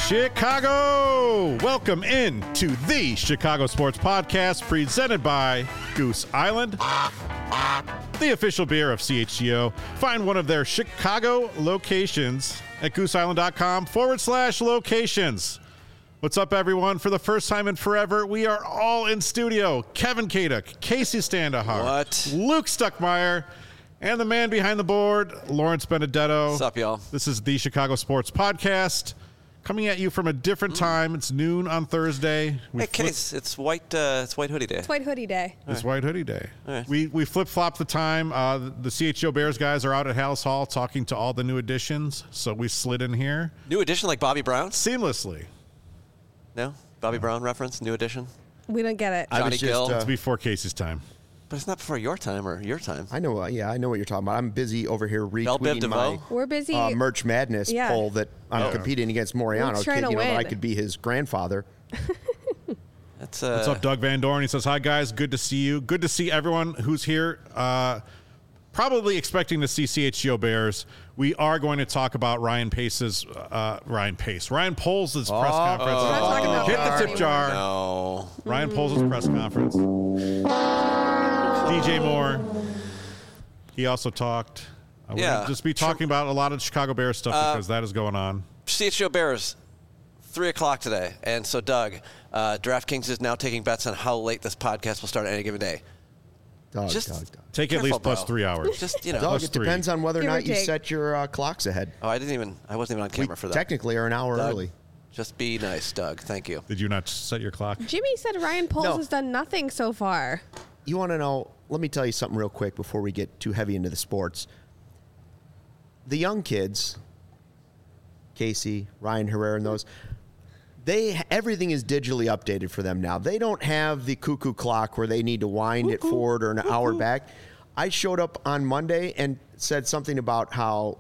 Chicago! Welcome in to the Chicago Sports Podcast presented by Goose Island, the official beer of CHGO. Find one of their Chicago locations at gooseisland.com/locations. What's up, everyone? For the first time in forever, we are all in studio. Kevin Kaduk, Casey Standahar, Luke Stuckmeyer, and the man behind the board, Lawrence Benedetto. What's up, y'all? This is the Chicago Sports Podcast. Coming at you from a different time. It's noon on Thursday. Hey, Case, it's white hoodie day. It's White Hoodie Day. It's White Hoodie Day. Right. We flip-flop the time. The CHGO Bears guys are out at Hallis Hall talking to all the new additions, so we slid in here. New edition like Bobby Brown? Seamlessly. No? Bobby Brown reference? New edition? We don't get it. Johnny Gill? It's before Casey's time. But it's not before your time or your time. I know. I know what you're talking about. I'm busy over here Bell Biv retweeting my We're busy. Merch Madness poll that I'm competing against Moriano. Trying to that I win. could be his grandfather. That's What's up, Doug Van Dorn? He says, hi, guys. Good to see you. Good to see everyone who's here. Probably expecting to see CHGO Bears. We are going to talk about Ryan Poles' press conference. We're not talking about Hit the that tip anymore. jar. No. Ryan Poles' press conference. DJ Moore. He also talked. We're gonna just be talking about a lot of Chicago Bears stuff because that is going on. CHGO Bears, 3 o'clock today. And so, Doug, DraftKings is now taking bets on how late this podcast will start on any given day. Doug. Take at Careful, least plus bro. 3 hours. Just, you know. Doug, Plus it 3. depends on whether or Give or not you take. set your clocks ahead. Oh, I wasn't even on camera for that. Technically are an hour Doug, early. Just be nice, Doug. Thank you. Did you not set your clock? Jimmy said Ryan Poles No. has done nothing so far. You want to know? Let me tell you something real quick before we get too heavy into the sports. The young kids, Casey, Ryan Herrera, and those, everything is digitally updated for them now. They don't have the cuckoo clock where they need to wind it forward or an hour back. I showed up on Monday and said something about how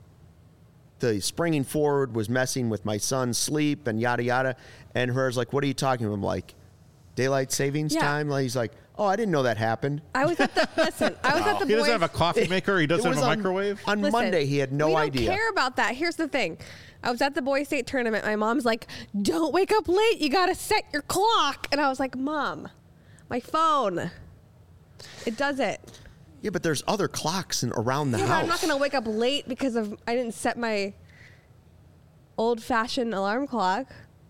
the springing forward was messing with my son's sleep and yada yada. And Herrera's like, "What are you talking about?" I'm like, "Daylight savings time." Like, he's like, "Oh, I didn't know that happened." I was at the I was at the He doesn't boys. have a coffee maker. He doesn't It have was a on- microwave. On Listen, Monday, he had no we idea. don't care about that. Here's the thing. I was at the boys' state tournament. My mom's like, "Don't wake up late. You got to set your clock." And I was like, "Mom, my phone. It does it." Yeah, but there's other clocks around the Yeah, but house. I'm not going to wake up late because I didn't set my old-fashioned alarm clock.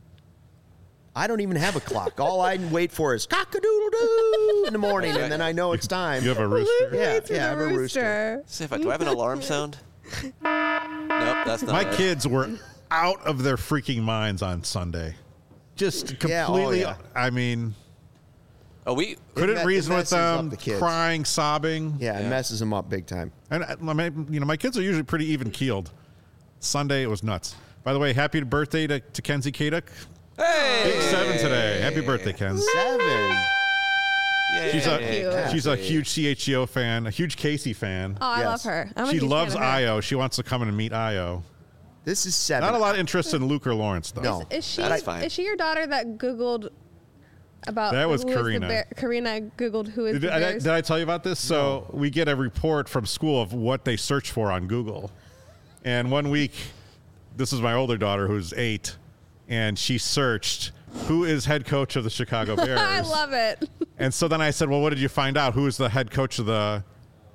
I don't even have a clock. All I wait for is cock-a-doodle-doo in the morning, and then I know it's time. You have a rooster? Yeah, It's I have a rooster. See if do I have an alarm sound? Nope, that's not My it. kids were out of their freaking minds on Sunday. Just completely. Yeah. I mean, Oh, we couldn't reason with messes up them, the kids. crying, sobbing. Yeah, it messes them up big time. And my kids are usually pretty even keeled. Sunday it was nuts. By the way, happy birthday to Kenzie Kaduk. Hey! Big 7 today. Happy birthday, Ken. 7. She's Cute. she's a huge CHGO fan, a huge Casey fan. Oh, I Yes. love her. I'm a She huge loves fan of her. Io. She wants to come in and meet Io. This is 7. Not a lot of interest in Luke or Lawrence, though. No. Is she? That's fine. Is she your daughter that Googled about? That was who is the Karina. bear- Karina Googled who is the Bears. Did I tell you about this? So we get a report from school of what they search for on Google. And one week, this is my older daughter who's 8, and she searched, who is head coach of the Chicago Bears? I love it. And so then I said, well, what did you find out? Who is the head coach of the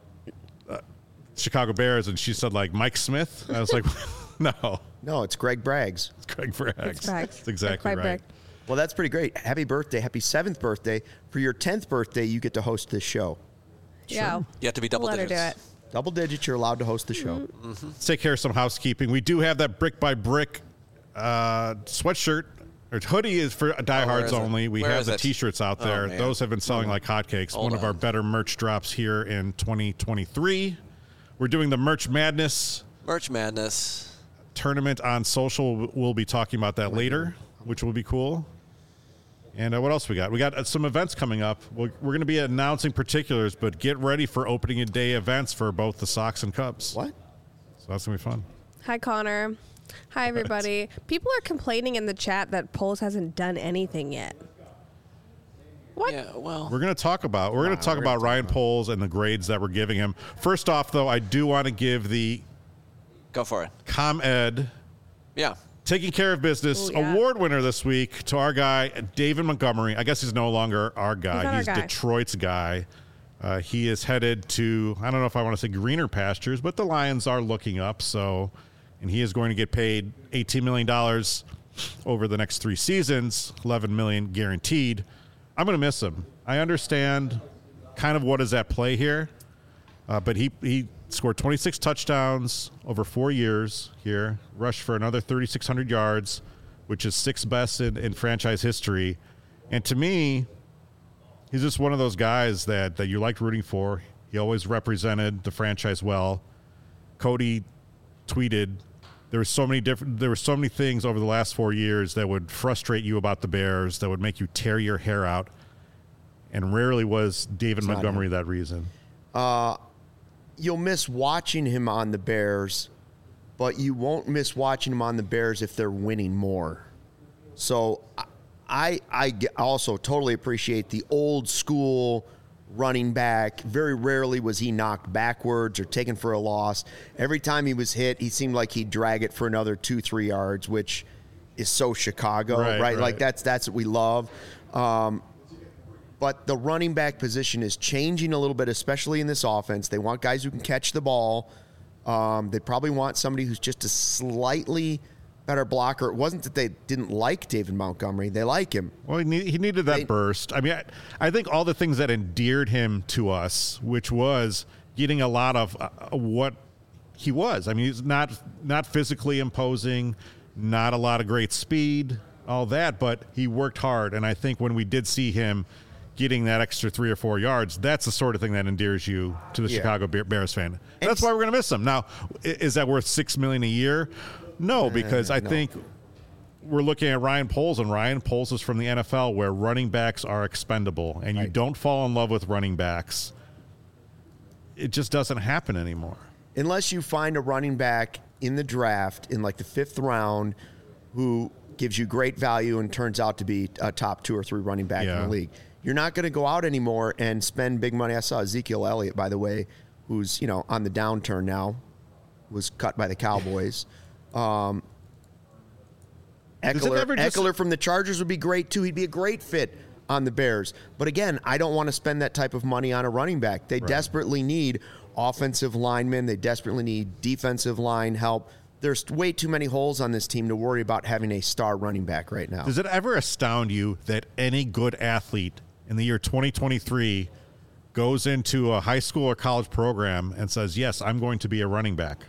Chicago Bears? And she said, like, Mike Smith. And I was like, no, No, it's Greg Braggs. it's Craig Braggs. It's Braggs. That's exactly Craig right. Bragg. Well, that's pretty great. Happy birthday. Happy 7th birthday. For your 10th birthday, you get to host this show. Yeah. You have to be double Let her digits. do it. Double digits, you're allowed to host the show. Let's take care of some housekeeping. We do have that brick by brick sweatshirt. Or hoodie is for diehards is it? only. We Where have is the it? T-shirts out Oh, there. man. Those have been selling like hotcakes. Hold One of on. our better merch drops here in 2023. We're doing the Merch Madness Merch Madness. tournament on social. We'll be talking about that later, which will be cool. And what else we got? We got some events coming up. We're going to be announcing particulars, but get ready for opening day events for both the Sox and Cubs. What? So that's going to be fun. Hi, Connor. Hi, everybody. People are complaining in the chat that Poles hasn't done anything yet. What? Yeah, well. We're going to talk about Ryan Poles and the grades that we're giving him. First off, though, I do want to give the Go for it. ComEd Yeah. Taking care of business. Ooh, yeah. Award winner this week to our guy, David Montgomery. I guess he's no longer our guy. He's our guy. Detroit's guy. He is headed to, I don't know if I want to say greener pastures, but the Lions are looking up. And he is going to get paid $18 million over the next 3 seasons, $11 million guaranteed. I'm going to miss him. I understand kind of what is at play here, but he scored 26 touchdowns over 4 years here, rushed for another 3,600 yards, which is 6th best in franchise history. And to me, he's just one of those guys that you liked rooting for. He always represented the franchise well. Cody tweeted, there were so many things over the last 4 years that would frustrate you about the Bears, that would make you tear your hair out. And rarely was David Montgomery that reason. You'll miss watching him on the Bears, but you won't miss watching him on the Bears if they're winning more. So I also totally appreciate the old school running back. Very rarely was he knocked backwards or taken for a loss. Every time he was hit, he seemed like he'd drag it for another 2-3 yards, which is so Chicago, right? Like that's what we love. But the running back position is changing a little bit, especially in this offense. They want guys who can catch the ball. They probably want somebody who's just a slightly better blocker. It wasn't that they didn't like David Montgomery. They like him. Well, he needed that burst. I mean, I think all the things that endeared him to us, which was getting a lot of what he was. I mean, he's not physically imposing, not a lot of great speed, all that, but he worked hard. And I think when we did see him getting that extra 3 or 4 yards, that's the sort of thing that endears you to the Chicago Bears fan. And that's why we're going to miss him. Now, is that worth $6 million a year? No, because I think we're looking at Ryan Poles, and Ryan Poles is from the NFL, where running backs are expendable, and you don't fall in love with running backs. It just doesn't happen anymore. Unless you find a running back in the draft in like the 5th round who gives you great value and turns out to be a top 2 or 3 running back in the league. You're not going to go out anymore and spend big money. I saw Ezekiel Elliott, by the way, who's on the downturn now, was cut by the Cowboys. Eckler from the Chargers would be great too. He'd be a great fit on the Bears. But again, I don't want to spend that type of money on a running back. They desperately need offensive linemen. They desperately need defensive line help. There's way too many holes on this team to worry about having a star running back right now. Does it ever astound you that any good athlete in the year 2023 goes into a high school or college program and says, yes, I'm going to be a running back?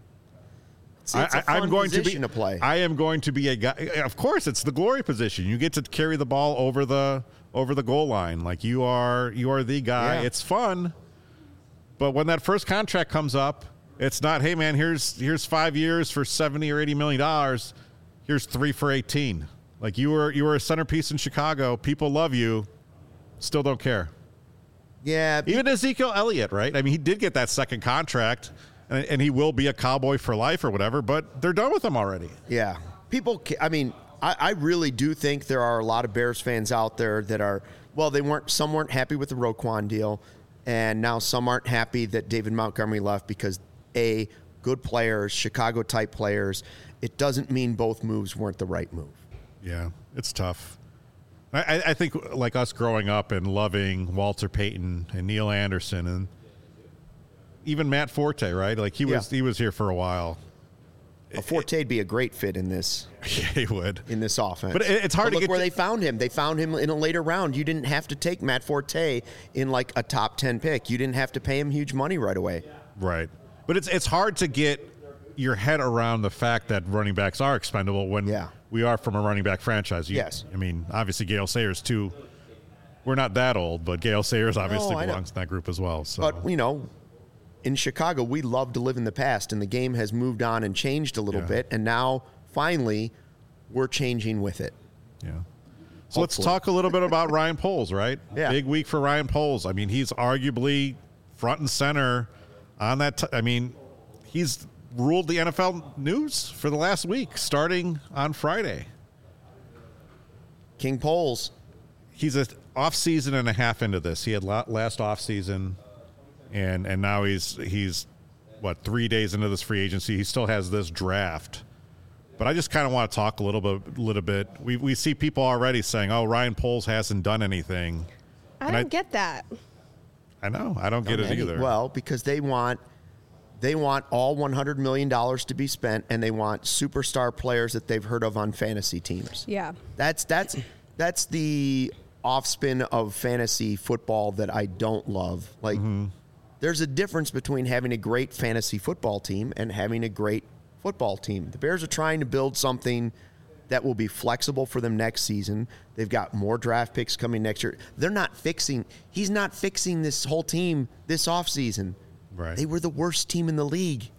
I'm going to play. I am going to be a guy. Of course, it's the glory position. You get to carry the ball over the goal line. Like you are the guy. Yeah. It's fun. But when that first contract comes up, it's not, hey man, here's 5 years for $70 or $80 million. Here's 3 for 18. Like you were a centerpiece in Chicago. People love you. Still don't care. Yeah. Even Ezekiel Elliott, right? I mean, he did get that second contract, and he will be a Cowboy for life or whatever, but they're done with him already. Yeah. I really do think there are a lot of Bears fans out there that are, some weren't happy with the Roquan deal, and now some aren't happy that David Montgomery left because, good players, Chicago-type players. It doesn't mean both moves weren't the right move. Yeah, it's tough. I think like us growing up and loving Walter Payton and Neil Anderson and even Matt Forte, right? Like he was here for a while. Forte'd be a great fit in this. Yeah, he would. In this offense. But it's hard to get where they found him. They found him in a later round. You didn't have to take Matt Forte in like a top 10 pick. You didn't have to pay him huge money right away. Right. But it's hard to get your head around the fact that running backs are expendable when we are from a running back franchise. Yes. I mean, obviously Gale Sayers too. We're not that old, but Gale Sayers obviously belongs in that group as well. So. But, in Chicago, we love to live in the past, and the game has moved on and changed a little bit, and now, finally, we're changing with it. Yeah. So let's talk a little bit about Ryan Poles, right? Yeah. Big week for Ryan Poles. I mean, he's arguably front and center on that. He's ruled the NFL news for the last week, starting on Friday. King Poles. He's an off-season and a half into this. He had last off-season. And now he's 3 days into this free agency. He still has this draft. But I just kind of want to talk a little bit. We see people already saying, "Oh, Ryan Poles hasn't done anything." I don't get that. I know. I don't get it either. Well, because they want all $100 million to be spent, and they want superstar players that they've heard of on fantasy teams. Yeah. That's the offspin of fantasy football that I don't love. Like, there's a difference between having a great fantasy football team and having a great football team. The Bears are trying to build something that will be flexible for them next season. They've got more draft picks coming next year. He's not fixing this whole team this offseason. Right. They were the worst team in the league.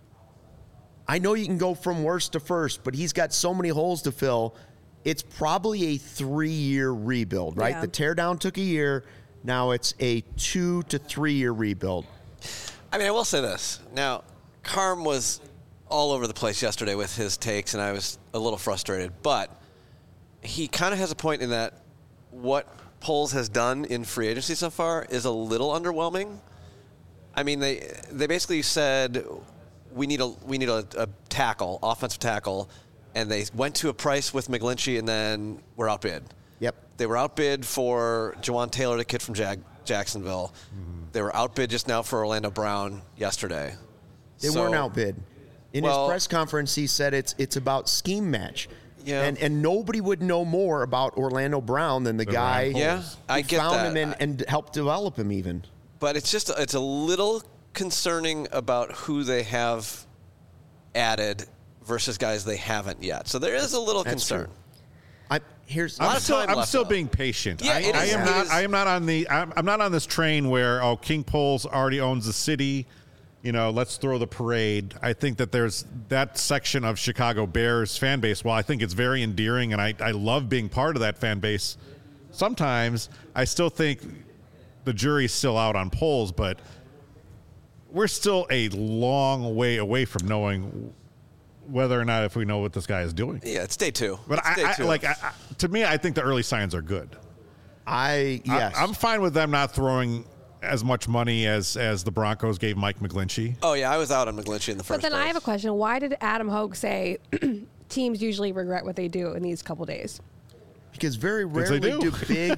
I know you can go from worst to first, but he's got so many holes to fill. It's probably a 3-year rebuild, right? Yeah. The teardown took a year. Now it's a 2 to 3 year rebuild. I mean, I will say this. Now, Carm was all over the place yesterday with his takes, and I was a little frustrated. But he kind of has a point in that what Poles has done in free agency so far is a little underwhelming. I mean, they basically said we need a tackle, offensive tackle, and they went to a price with McGlinchey, and then were outbid. Yep. They were outbid for Jawan Taylor, the kid from Jacksonville. They were outbid just now for Orlando Brown yesterday. They weren't outbid. In his Well- press conference, he said it's about scheme match. Yeah. And nobody would know more about Orlando Brown than the guy Ryan Poles. Yeah, I who get found that. him and helped develop him even. But it's a little concerning about who they have added versus guys they haven't yet. So there is a little That's concern. true. lot I'm of still, time I'm left, still though. being patient. Yeah, it is. I am not on the. I'm not on this train where King Poles already owns the city. Let's throw the parade. I think that there's that section of Chicago Bears fan base. While I think it's very endearing and I love being part of that fan base, sometimes I still think the jury's still out on Poles, but we're still a long way away from knowing whether or not if we know what this guy is doing. Yeah, it's day 2. But It's day 2. to me, I think the early signs are good. Yes. I'm fine with them not throwing as much money as the Broncos gave Mike McGlinchey. Oh, yeah, I was out on McGlinchey in the first But then I place. have a question. Why did Adam Hogue say teams usually regret what they do in these couple days? Because very they rarely do.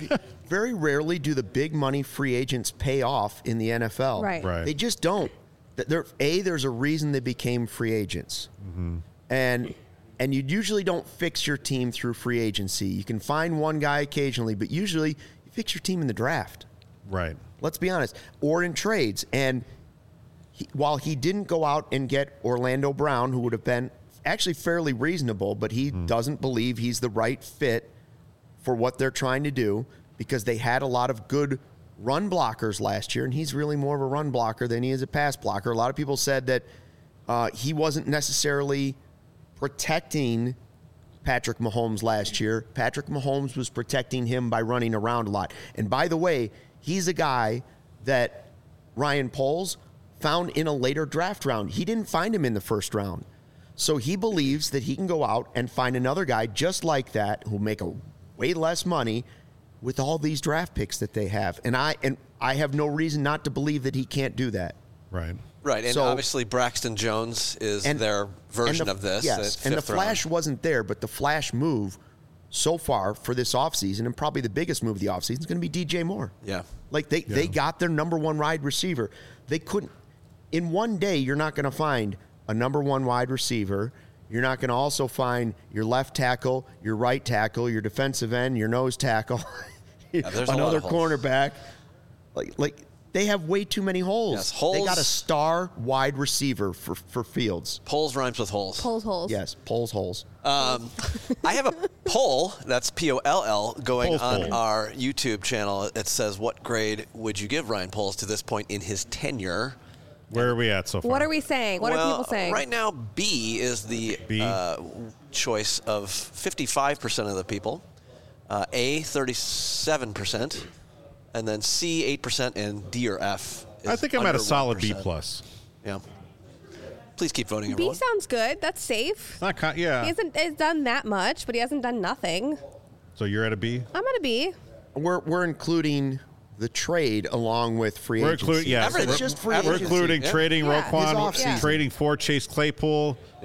do the big money free agents pay off in the NFL. Right. They just don't. There's a reason they became free agents. And you usually don't fix your team through free agency. You can find one guy occasionally, but usually you fix your team in the draft. Right. Let's be honest. Or in trades. And while he didn't go out and get Orlando Brown, who would have been actually fairly reasonable, but he doesn't believe he's the right fit for what they're trying to do because they had a lot of good run blockers last year, and he's really more of a run blocker than he is a pass blocker. A lot of people said that he wasn't necessarily protecting Patrick Mahomes last year. Patrick Mahomes was protecting him by running around a lot. And by the way, he's a guy that Ryan Poles found in a later draft round. He didn't find him in the first round. So he believes that he can go out and find another guy just like that who'll make a way less money with all these draft picks that they have. And I have no reason not to believe that he can't do that. Right. Right, and So- obviously Braxton Jones is their version of this. Yes, at and the fifth round. flash wasn't there, but the flash move so far for this offseason, and probably the biggest move of the offseason, is going to be DJ Moore. Yeah. Like they got their number one wide receiver. They couldn't, in one day, you're not going to find a number one wide receiver. You're not going to also find your left tackle, your right tackle, your defensive end, your nose tackle, there's a lot another of holes. cornerback. Like they have way too many holes. Yes, holes. They got a star wide receiver for Fields. Poles rhymes with holes. Polls holes. Yes, Poles holes. I have a poll, that's Poll, going Poles on poll. our YouTube channel. It says, what grade would you give Ryan Poles to this point in his tenure? Where are we at so far? What are we saying? What are people saying? Right now, B is the B? choice of 55% of the people. A, 37%. And then C, 8%. And D or F is I think I'm at under a solid B 1%. plus. Yeah. Please keep voting, B everyone. sounds good. That's safe. It's not. He hasn't done that much, but he hasn't done nothing. So you're at a B. I'm at a B. We're including the trade along with free We're agency. including. Yes, Everything. It's just free We're agency. including Yeah. trading Yeah. His Roquan, offseason. trading for Chase Claypool. Yeah.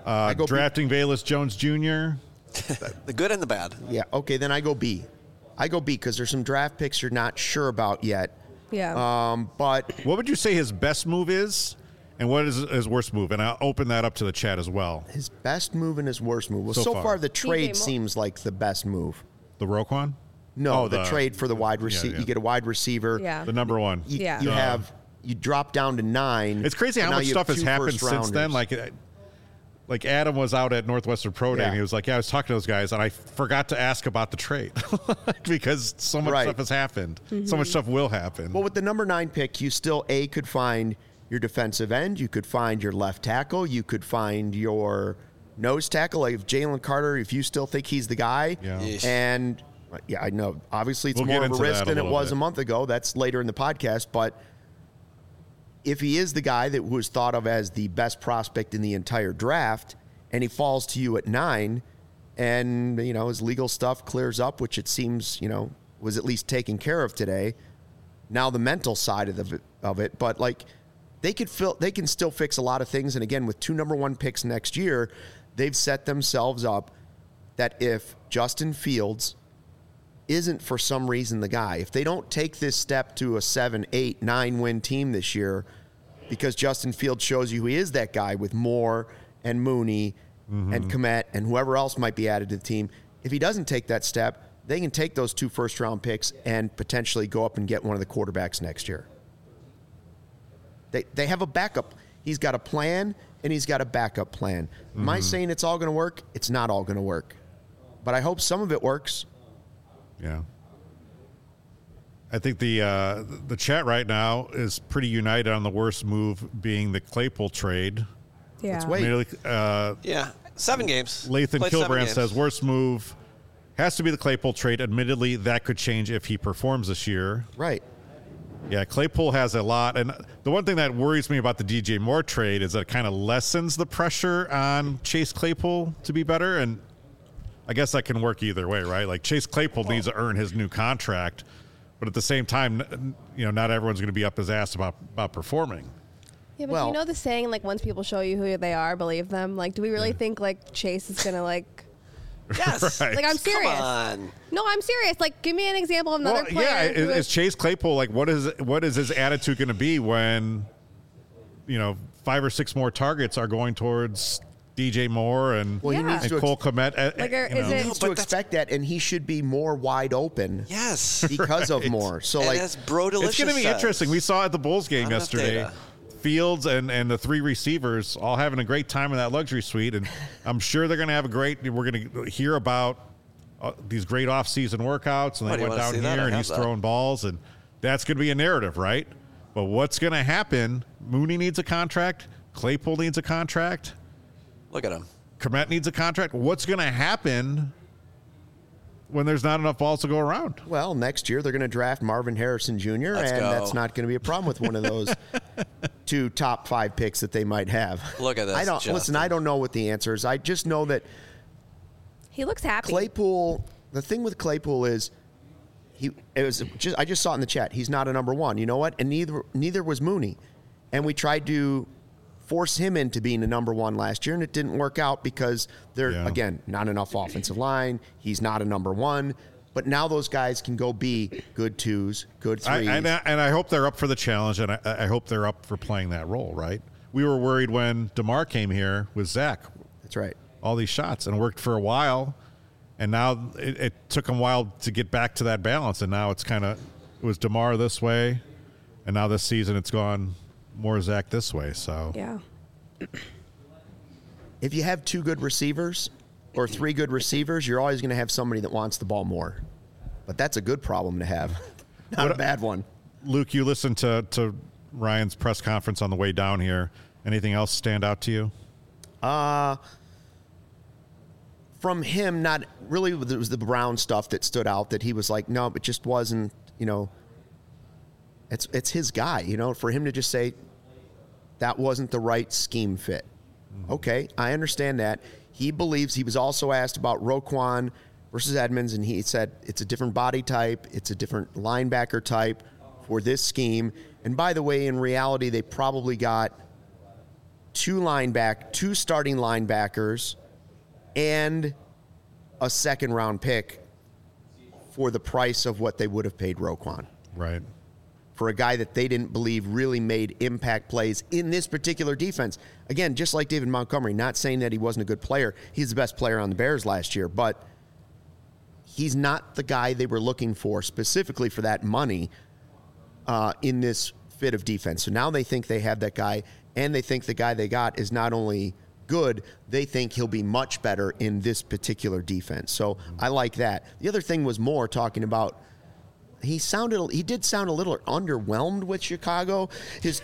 go Drafting Velus Jones Jr. The good and the bad. Yeah, okay, then I go B. I go B because there's some draft picks you're not sure about yet. Yeah. But What would you say his best move is, and what is his worst move? And I'll open that up to the chat as well. his best move and his worst move. Well, So so far. far the trade Moore. seems like the best move. The Roquan? No, Oh, the trade for the wide receiver. yeah. You get a wide receiver. Yeah. The number one. You, Yeah. you drop down to 9. It's crazy and how now much you have stuff has 2 happened since then. first-rounders. Like Adam was out at Northwestern Pro Day, Yeah. and he was like, "Yeah, I was talking to those guys, and I forgot to ask about the trade because so much Right. stuff has happened. So much stuff will happen." Well, with the number 9 pick, you still could find your defensive end, you could find your left tackle, you could find your nose tackle. Like if Jalen Carter, if you still think he's the guy, Yeah. Yeesh. and yeah, I know obviously it's We'll more get of a into risk that a than it little was bit. a month ago. That's later in the podcast, but if he is the guy that was thought of as the best prospect in the entire draft, and he falls to you at 9, and his legal stuff clears up, which it seems was at least taken care of today. Now the mental side of it, but like they can still fix a lot of things. And again, with 2 number 1 picks next year, they've set themselves up that if Justin Fields isn't for some reason the guy, if they don't take this step to a 7, 8, 9 win team this year, because Justin Fields shows you he is that guy with Moore and Mooney and Kmet and whoever else might be added to the team. If he doesn't take that step, they can take those 2 first-round picks and potentially go up and get one of the quarterbacks next year. They have a backup. He's got a plan, and he's got a backup plan. Am I saying it's all going to work? It's not all going to work. But I hope some of it works. Yeah. I think the chat right now is pretty united on the worst move being the Claypool trade. Yeah. Let's wait. Merely, Yeah, 7 games. Lathan Played 7 Kilbrand games. says worst move has to be the Claypool trade. Admittedly, that could change if he performs this year. Right. Yeah, Claypool has a lot. And the one thing that worries me about the DJ Moore trade is that it kind of lessens the pressure on Chase Claypool to be better. And I guess that can work either way, right? Like Chase Claypool needs to earn his new contract. But at the same time, not everyone's going to be up his ass about performing. Yeah, but Well- you know the saying, like, once people show you who they are, believe them? Like, do we really think, like, Chase is going to, like... Yes. Right. Like, I'm serious. Come on. No, I'm serious. Like, give me an example of another player. yeah, who is Chase Claypool like what is his attitude going to be when 5 or 6 more targets are going towards DJ Moore and, Well, he Yeah. needs and to Cole Kmet? Like, is he it- needs to but that's- expect that, and he should be more wide open Yes. because of Right. more. So, And like, as Bro Delicious It's going to be says, interesting. We saw at the Bulls game Not enough yesterday, data. Fields and the 3 receivers all having a great time in that luxury suite, and I'm sure they're going to have a great. We're going to hear about these great off-season workouts, and Oh, they do you went wanna down see that? here, I and have he's that. throwing balls, and that's going to be a narrative, right? But what's going to happen? Mooney needs a contract. Claypool needs a contract. Look at him. Kmet needs a contract. What's going to happen when there's not enough balls to go around? well, next year they're going to draft Marvin Harrison Jr., Let's and go. that's not going to be a problem with one of those 2 top 5 picks that they might have. Look at this, Listen, Justin. I don't know what the answer is. I just know that He looks happy. Claypool, the thing with Claypool is I just saw it in the chat. He's not a number 1. You know what? And neither was Mooney. And we tried to force him into being a number 1 last year, and it didn't work out because again, not enough offensive line. He's not a number 1. But now those guys can go be good 2s, good 3s. And I hope they're up for the challenge, and I hope they're up for playing that role, right? We were worried when DeMar came here with Zach, That's right. all these shots, and worked for a while, and now it took him a while to get back to that balance, and now it was DeMar this way, and now this season it's gone more Zach this way, so. Yeah. If you have 2 good receivers or 3 good receivers, you're always going to have somebody that wants the ball more. But that's a good problem to have, not a bad one. Luke, you listened to Ryan's press conference on the way down here. Anything else stand out to you? From him, not really. It was the Brown stuff that stood out. That he was like, no, it just wasn't. It's his guy. For him to just say that wasn't the right scheme fit. Okay, I understand that. He believes he was also asked about Roquan versus Edmonds, and he said it's a different body type, it's a different linebacker type for this scheme. And by the way, in reality, they probably got two starting linebackers, and a second-round pick for the price of what they would have paid Roquan. Right. For a guy that they didn't believe really made impact plays in this particular defense. Again, just like David Montgomery, not saying that he wasn't a good player. He's the best player on the Bears last year, but he's not the guy they were looking for specifically for that money in this fit of defense. So now they think they have that guy, and they think the guy they got is not only good, they think he'll be much better in this particular defense. So I like that. The other thing was Moore talking about he did sound a little underwhelmed with Chicago. His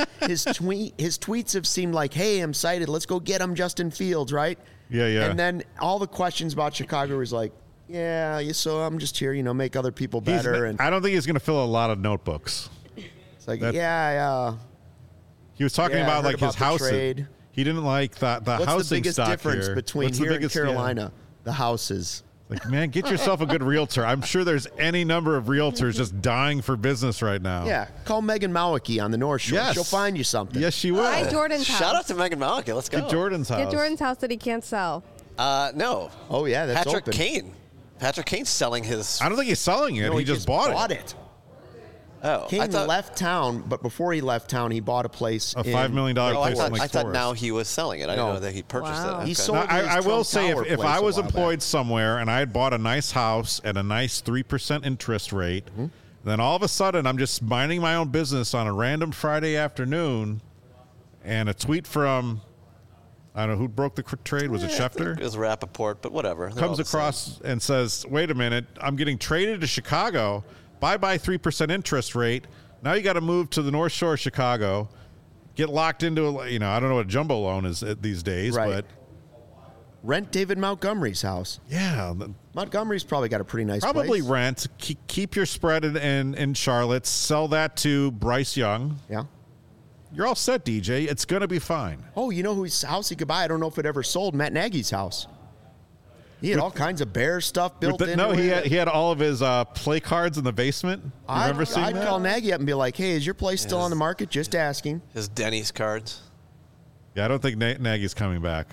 tweets have seemed like, "Hey, I'm excited. Let's go get him, Justin Fields," right? Yeah. And then all the questions about Chicago was like, "Yeah, so I'm just here, make other people better." And I don't think he's going to fill a lot of notebooks. it's like, yeah. He was talking Yeah, I about heard like his about the house. trade. He didn't like the What's housing the biggest stock difference here. between What's the here and biggest- Carolina? The houses. Like, man, get yourself a good realtor. I'm sure there's any number of realtors just dying for business right now. Yeah, call Megan Mawicki on the North Shore. Yes. She'll find you something. Yes, she will. Buy Jordan's house. Shout out to Megan Malika. Let's go. Get Jordan's house. Get Jordan's house that he can't sell. No. Oh, yeah, that's Patrick open. Kane. Patrick Kane's selling his. I don't think he's selling it. No, he just bought it. Oh, Kane I thought, left town, but before he left town, he bought a place. A $5 million Oh, I place thought, in Lake I thought Forest. now he was selling it. I didn't No. know that he purchased Wow. it. He Okay. sold Now, I his will Trump say, Tower if place I a was while employed back. somewhere and I had bought a nice house at a nice 3% interest rate, then all of a sudden I'm just minding my own business on a random Friday afternoon, and a tweet from, I don't know, who broke the trade? Was it Schefter? It was Rappaport, but whatever. They're all Comes the same. across and says, wait a minute, I'm getting traded to Chicago, bye-bye 3% interest rate. Now you got to move to the North Shore of Chicago, get locked into, I don't know what a jumbo loan is these days, Right. but Rent David Montgomery's house. yeah, Montgomery's probably got a pretty nice probably place. rent, keep your spread in Charlotte, sell that to Bryce Young. Yeah. You're all set, DJ. It's going to be fine. Oh, you know whose house he could buy? I don't know if it ever sold. Matt Nagy's house. He had all kinds of Bear stuff built in. No, he had all of his play cards in the basement. You remember seeing I'd that? call Nagy up and be like, "Hey, is your place still on the market? Just asking." His Denny's cards. Yeah, I don't think Nagy's coming back.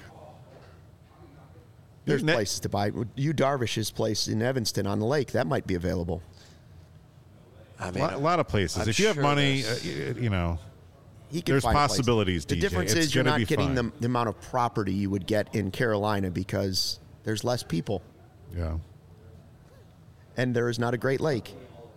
There's Na- places to buy. You Darvish's place in Evanston on the lake, that might be available. I A mean, lot of places. I'm If you have sure money, there's- He can There's find places. possibilities, The DJ. difference It's is you're gonna be not getting fine. the amount of property you would get in Carolina because there's less people yeah. and there is not a Great Lake.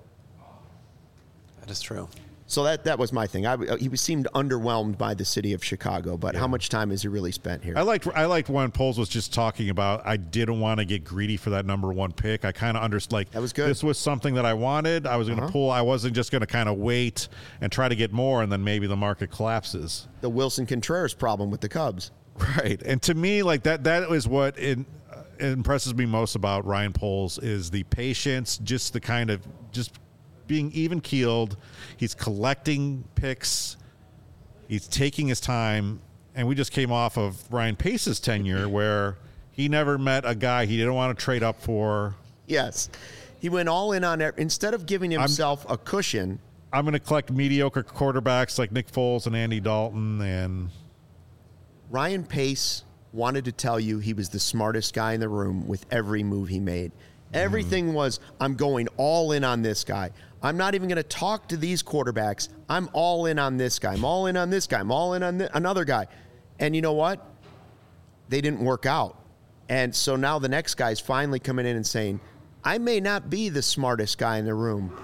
that is true. So that was my thing. He seemed underwhelmed by the city of Chicago, but how much time has he really spent here? I liked when Poles was just talking about I didn't want to get greedy for that number one pick. I kind of understood like That was good. This was something that I wanted. I was going to pull. I wasn't just going to kind of wait and try to get more, and then maybe the market collapses. The Wilson Contreras problem with the Cubs. Right. And to me, like that is what impresses me most about Ryan Poles is the patience, just the kind of just being even keeled. He's collecting picks. He's taking his time. And we just came off of Ryan Pace's tenure where he never met a guy he didn't want to trade up for. Yes. He went all in on it. Instead of giving himself a cushion. I'm going to collect mediocre quarterbacks like Nick Foles and Andy Dalton. And Ryan Pace wanted to tell you he was the smartest guy in the room with every move he made. Everything was, I'm going all in on this guy. I'm not even going to talk to these quarterbacks. I'm all in on this guy. I'm all in on this guy. I'm all in on another guy. And you know what? They didn't work out. And so now the next guy's finally coming in and saying, I may not be the smartest guy in the room.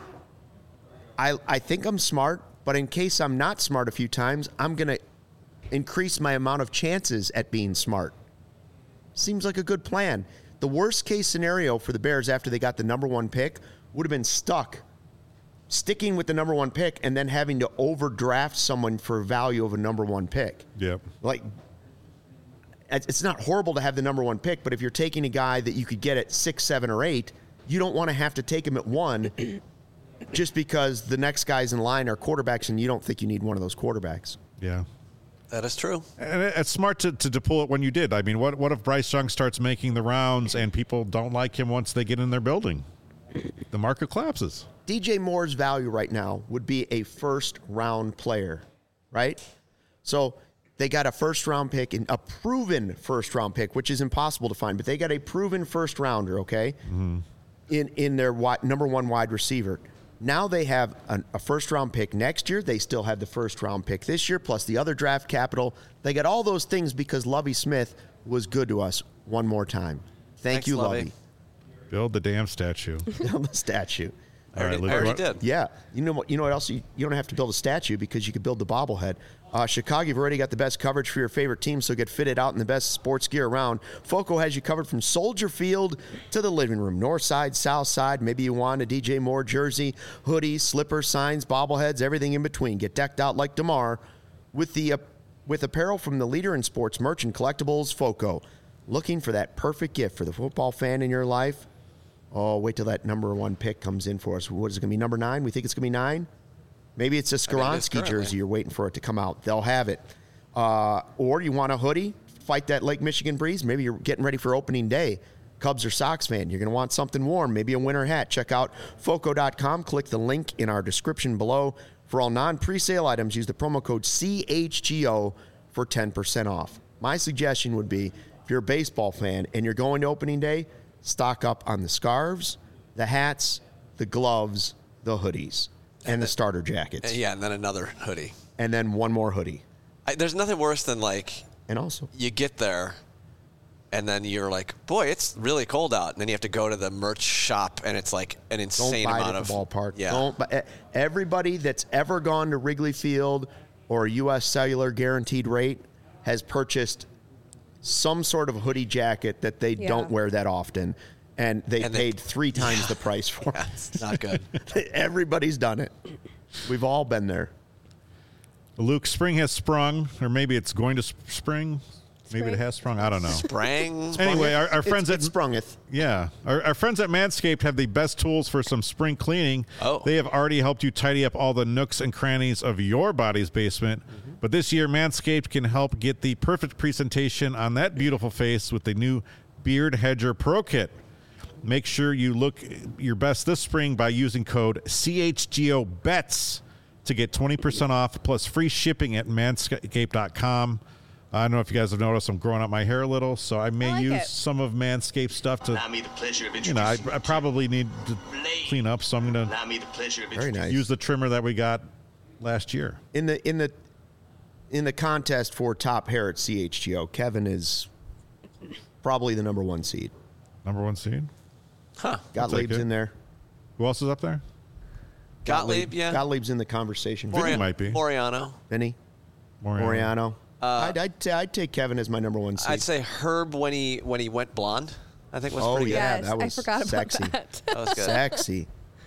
I think I'm smart, but in case I'm not smart a few times, I'm going to increase my amount of chances at being smart. Seems like a good plan. The worst case scenario for the Bears after they got the number one pick would have been sticking with the number one pick and then having to overdraft someone for value of a number one pick. yep. Like, it's not horrible to have the number one pick, but if you're taking a guy that you could get at 6, 7, or 8, you don't want to have to take him at 1 just because the next guys in line are quarterbacks and you don't think you need one of those quarterbacks. Yeah. That is true. And it's smart to pull it when you did. I mean, what if Bryce Young starts making the rounds and people don't like him once they get in their building? The market collapses. DJ Moore's value right now would be a first-round player, right? So They got a first-round pick, and a proven first-round pick, which is impossible to find, but they got a proven first-rounder, okay, in their number one wide receiver. Now they have a first-round pick next year. They still have the first-round pick this year, plus the other draft capital. They got all those things because Lovie Smith was good to us one more time. Thanks, you, Lovie. Build the damn statue. Build the statue. All right, Luke, I already what- did. Yeah. You know what else? You don't have to build a statue because you could build the bobblehead. Chicago, you've already got the best coverage for your favorite team, so get fitted out in the best sports gear around. Foco has you covered from Soldier Field to the living room, north side, south side. Maybe you want a DJ Moore jersey, hoodies, slippers, signs, bobbleheads, everything in between. Get decked out like DeMar with apparel from the leader in sports merch and collectibles, Foco. Looking for that perfect gift for the football fan in your life? Oh, wait till that number one pick comes in for us. What is it going to be, number 9? We think it's going to be 9? Maybe it's a Skoronski jersey you're waiting for it to come out. They'll have it. Or you want a hoodie, fight that Lake Michigan breeze. Maybe you're getting ready for opening day. Cubs or Sox fan, you're going to want something warm, maybe a winter hat. Check out Foco.com. Click the link in our description below. For all non-presale items, use the promo code CHGO for 10% off. My suggestion would be, if you're a baseball fan and you're going to opening day, stock up on the scarves, the hats, the gloves, the hoodies, and the starter jackets. Yeah, and then another hoodie. And then one more hoodie. There's nothing worse than, like, And also, you get there and then you're like, boy, it's really cold out. And then you have to go to the merch shop and it's like an don't insane buy it amount at of the ballpark. Yeah. Don't buy, everybody that's ever gone to Wrigley Field or U.S. Cellular guaranteed rate has purchased some sort of hoodie jacket that they don't wear that often. And they paid 3 times the price for it. It's not good. Everybody's done it. We've all been there. Luke, spring has sprung, or maybe it's going to spring. Maybe it has sprung. I don't know. Sprang. Anyway, our friends it at sprungeth. Yeah. Our friends at Manscaped have the best tools for some spring cleaning. Oh. They have already helped you tidy up all the nooks and crannies of your body's basement. Mm-hmm. But this year, Manscaped can help get the perfect presentation on that beautiful face with the new Beard Hedger Pro Kit. Make sure you look your best this spring by using code CHGOBETS to get 20% off plus free shipping at manscaped.com. I don't know if you guys have noticed I'm growing out my hair a little, so I may like use it. some of Manscaped stuff to, Allow me the pleasure of you know, I introducing probably need to clean up, so I'm going to Allow me the pleasure of Very introducing nice. use the trimmer that we got last year. In the contest for top hair at CHGO, Kevin is probably the number 1 seed. Number 1 seed. Gottlieb's it. in there. Who else is up there? Gottlieb, yeah. Gottlieb's in the conversation. Vinny might be. Moriano. Vinny, Moriano. I'd take Kevin as my number 1 seed. I'd say Herb when he went blonde, I think was Oh, pretty yeah. Yes, that I was forgot about sexy. that. good. That was good. Sexy.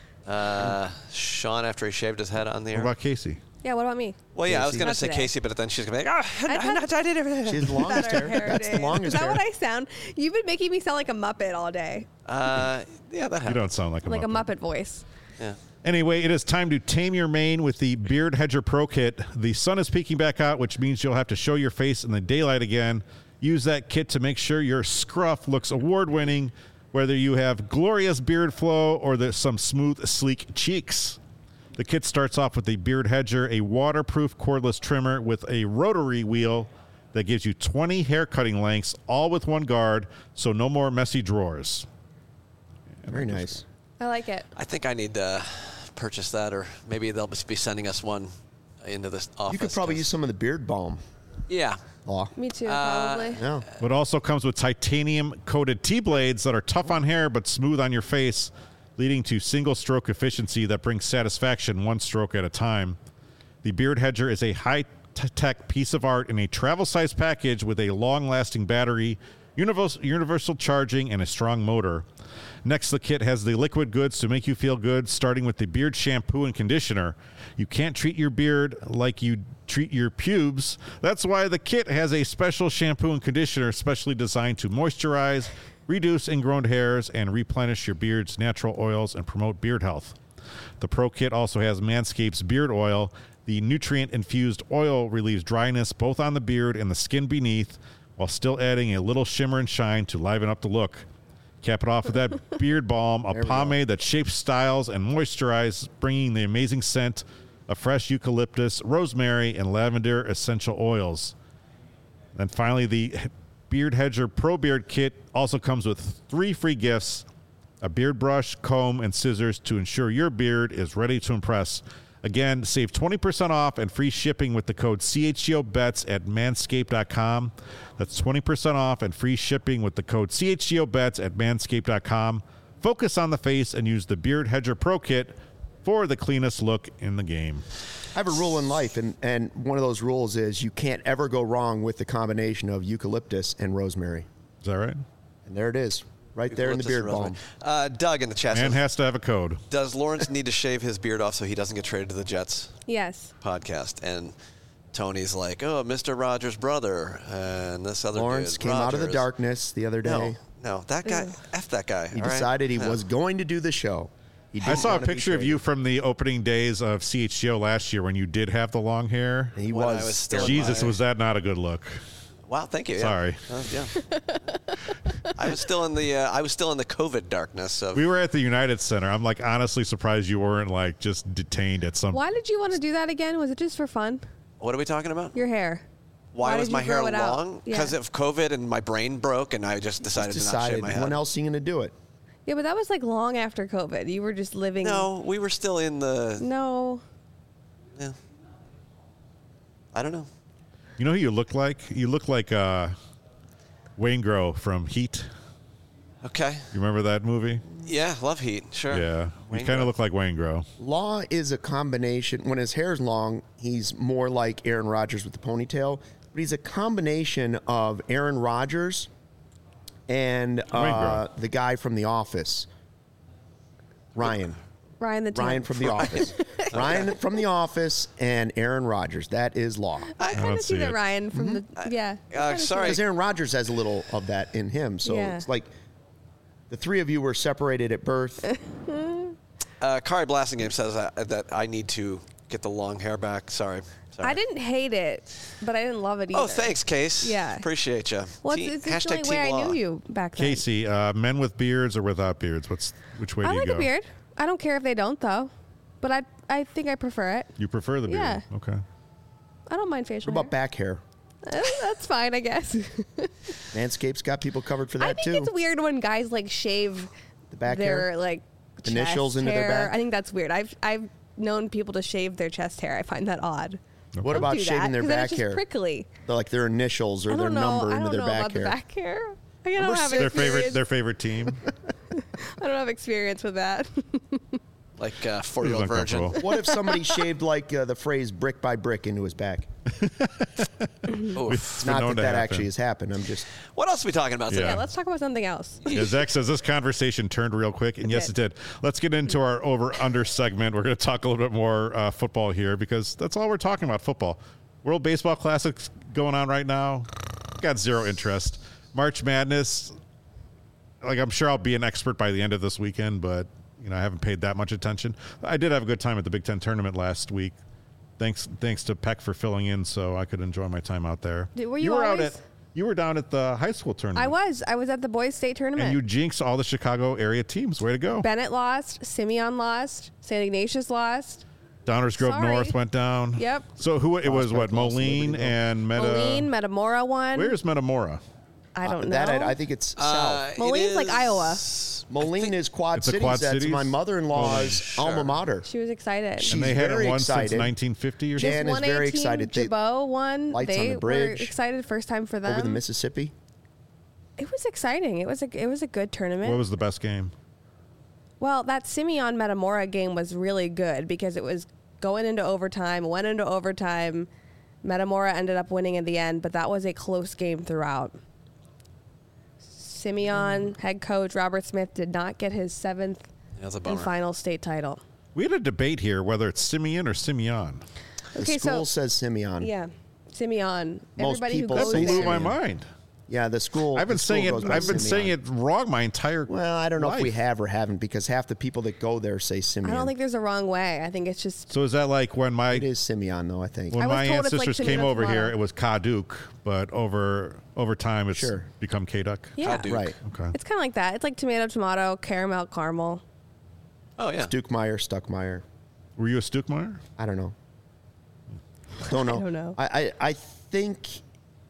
Sean after he shaved his head on the What air. about Casey? Yeah, what about me? Well, yeah, I was Casey? going to Not say today. Casey, but then she's going to be like, I I did everything. She has the longest Better hair. That's the days. longest Is that hair. what I sound? You've been making me sound like a Muppet all day. Yeah, that You happened. don't sound like a Like a Muppet. Muppet voice. Yeah. Anyway, it is time to tame your mane with the Beard Hedger Pro Kit. The sun is peeking back out, which means you'll have to show your face in the daylight again. Use that kit to make sure your scruff looks award-winning, whether you have glorious beard flow or some smooth, sleek cheeks. The kit starts off with the Beard Hedger, a waterproof cordless trimmer with a rotary wheel that gives you 20 hair cutting lengths, all with one guard, so no more messy drawers. Very nice. I like it. I think I need to purchase that, or maybe they'll just be sending us one into this office. You could probably 'cause- use some of the beard balm. Yeah. Law. Me too, probably. Yeah. It also comes with titanium-coated T-blades that are tough on hair but smooth on your face, leading to single-stroke efficiency that brings satisfaction one stroke at a time. The Beard Hedger is a high-tech piece of art in a travel-sized package with a long-lasting battery, universal charging, and a strong motor. Next, the kit has the liquid goods to make you feel good, starting with the beard shampoo and conditioner. You can't treat your beard like you treat your pubes. That's why the kit has a special shampoo and conditioner specially designed to moisturize, reduce ingrown hairs, and replenish your beard's natural oils and promote beard health. The Pro Kit also has Manscaped's beard oil. The nutrient-infused oil relieves dryness both on the beard and the skin beneath, while still adding a little shimmer and shine to liven up the look. Cap it off with that beard balm, a pomade that shapes styles and moisturizes, bringing the amazing scent of fresh eucalyptus, rosemary, and lavender essential oils. And finally, the Beard Hedger Pro Beard Kit also comes with 3 free gifts: a beard brush, comb, and scissors to ensure your beard is ready to impress. Again, save 20% off and free shipping with the code CHGOBETS at manscaped.com. That's 20% off and free shipping with the code CHGOBETS at manscaped.com. Focus on the face and use the Beard Hedger Pro Kit for the cleanest look in the game. I have a rule in life, and one of those rules is you can't ever go wrong with the combination of eucalyptus and rosemary. Is that right? And there it is, right there in the beard balm. Doug in the chat Man says, has to have a code. does Lawrence need to shave his beard off so he doesn't get traded to the Jets Yes. podcast? And Tony's like, oh, Mr. Rogers' brother, and this other Lawrence dude, came out of the Rogers. darkness the other day. No, that guy, F that guy. He all right? decided he No. was going to do the show. He I didn't saw a wanna be picture of traded. you from the opening days of CHGO last year when you did have the long hair. He When I was. was still in Jesus, my- was that not a good look? Wow, thank you. Yeah. Sorry. Yeah. I was still in the COVID darkness of. We were at the United Center. I'm like honestly surprised you weren't like just detained at some. Why did you want to do that again? Was it just for fun? What are we talking about? Your hair. Why was did my you hair grow it out? long? Yeah. Because of COVID and my brain broke, and I just decided to not decided shave my head. when else are you going to do it? Yeah, but that was like long after COVID. You were just living. No, we were still in the. No. Yeah. I don't know. You know who you look like? You look like Wayne Grow from Heat. Okay. You remember that movie? Yeah, love Heat. Sure. Yeah. You Wayne kind Grow. of look like Wayne Grow. Law is a combination. When his hair's long, he's more like Aaron Rodgers with the ponytail, but he's a combination of Aaron Rodgers and Grow. the guy from The Office, Ryan. Ryan the Tank. Ryan from The Office. Ryan from The Office and Aaron Rodgers. That is Law. I kind don't of see see the it. Ryan from the. Yeah. I kinda see sorry. Because Aaron Rodgers has a little of that in him. So Yeah. it's like the three of you were separated at birth. Kari Blasingame says that I need to get the long hair back. Sorry. I didn't hate it, but I didn't love it either. Oh, thanks, Case. Yeah. Appreciate you. Well, it's the only way I knew you back then. Casey, men with beards or without beards? Which way I do you like go? a beard. I don't care if they don't, though. But I think I prefer it. You prefer the beard? Yeah. Okay. I don't mind facial What about back hair? hair. That's fine, I guess. Manscaped's got people covered for that I think too. it's weird when guys like shave The back their hair? like Initials chest into their hair. back? I think that's weird. I've known people to shave their chest hair. I find that odd. What Don't about do shaving that, their 'cause then back it's just hair? prickly. They're like their initials or I their don't know. number I into don't their know back about hair. the back hair. I don't Number have six. Their experience. favorite team. I don't have experience with that. Like 4-year-old virgin. uncomfortable. What if somebody shaved like the phrase brick by brick into his back? Oof. It's been Not known that to that happen. actually has happened. I'm just What else are we talking about today? Yeah. Yeah, let's talk about something else. Yeah, Zach says this conversation turned real quick, and yes, it did. did. Let's get into our over-under segment. We're going to talk a little bit more football here because that's all we're talking about, football. World Baseball Classic's going on right now. Got zero interest. March Madness, like I'm sure I'll be an expert by the end of this weekend, but I haven't paid that much attention. I did have a good time at the Big Ten tournament last week. Thanks to Peck for filling in so I could enjoy my time out there. Were you were always- you were down at the high school tournament. I was at the boys' state tournament. And you jinxed all the Chicago area teams. Way to go. Bennett lost. Simeon lost. St. Ignatius lost. Downers Grove Sorry. North went down. Yep. So it was what, Prospect lost, Moline Libertyville. and Moline, Metamora won. Where's Metamora? I don't know. that. I think it's south. Moline's like Iowa. Moline is Quad It's a Cities. Quad That's Cities? my mother-in-law's Holy alma mater. She was excited. She- And they She's hadn't very won since excited. 1950 or This something. Jan is 1A very team, excited. They- Jabot won. Lights on They the were bridge. excited. First time for them. Over the Mississippi. It was exciting. It was a good tournament. What was the best game? Well, that Simeon Metamora game was really good because it was going into overtime, went into overtime. Metamora ended up winning in the end, but that was a close game throughout. Simeon head coach Robert Smith did not get his 7th That's a and bummer. final state title. We had a debate here whether it's Simeon or Simeon. The Okay, school so says Simeon. yeah, Simeon. Most Everybody who people goes That say there. blew my Simeon. mind. Yeah, the school. I've been the school saying it. goes by I've been saying Simeon. it wrong my entire. Well, I don't know if we life. have or haven't because half the people that go there say I Simeon. don't think there's a wrong way. I think it's just So is that like when it is Simeon, though. I think. when I was my told it's like ancestors Simeon came over Tomato. here, it was Kaduk, but over time it's Sure. become Kaduk. yeah. Duke. Right. Okay. It's kind of like that. It's like tomato, caramel. Oh, yeah. Dukemeyer, Stuckmeyer. Were you a Stukmeyer? I don't know. Don't know. I don't know. I think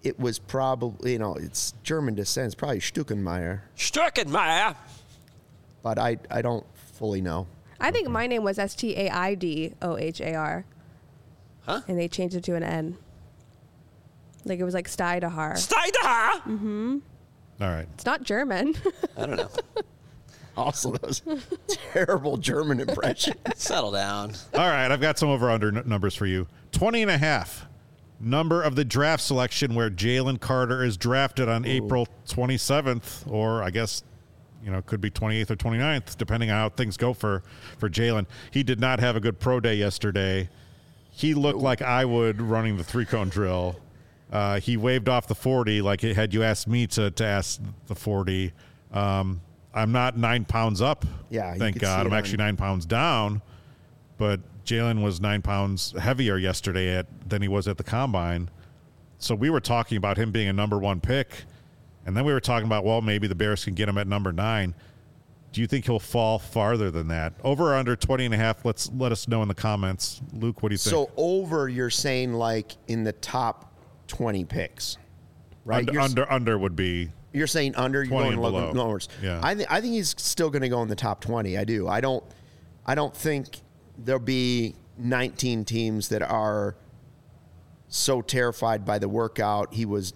it was probably, it's German descent. It's probably Stuckenmeier, Stuckenmeier. but I don't fully know. I think my name was Staidohar. Huh? And they changed it to an N. Like it was like Steidohar. Steidohar. All right. It's not German. I don't know. Also, those terrible German impressions. Settle down. All right, I've got some over-under numbers for you. 20.5. Number of the draft selection where Jalen Carter is drafted on April 27th, or I guess, could be 28th or 29th, depending on how things go for Jalen. He did not have a good pro day yesterday. He looked like I would running the 3-cone drill. He waved off the 40 like had you asked me to ask the 40. I'm not 9 pounds up. Yeah, thank God. I'm actually 9 pounds down. But Jalen was 9 pounds heavier yesterday than he was at the combine. So we were talking about him being a number 1 pick. And then we were talking about, well, maybe the Bears can get him at number 9. Do you think he'll fall farther than that? Over or under 20.5? Let us know in the comments. Luke, what do you think? So over, you're saying like in the top 20 picks, right? Under would be. You're saying under. You're 20 going and below. lowers. Yeah. I think he's still going to go in the top 20. I do. I don't think there'll be 19 teams that are so terrified by the workout. He was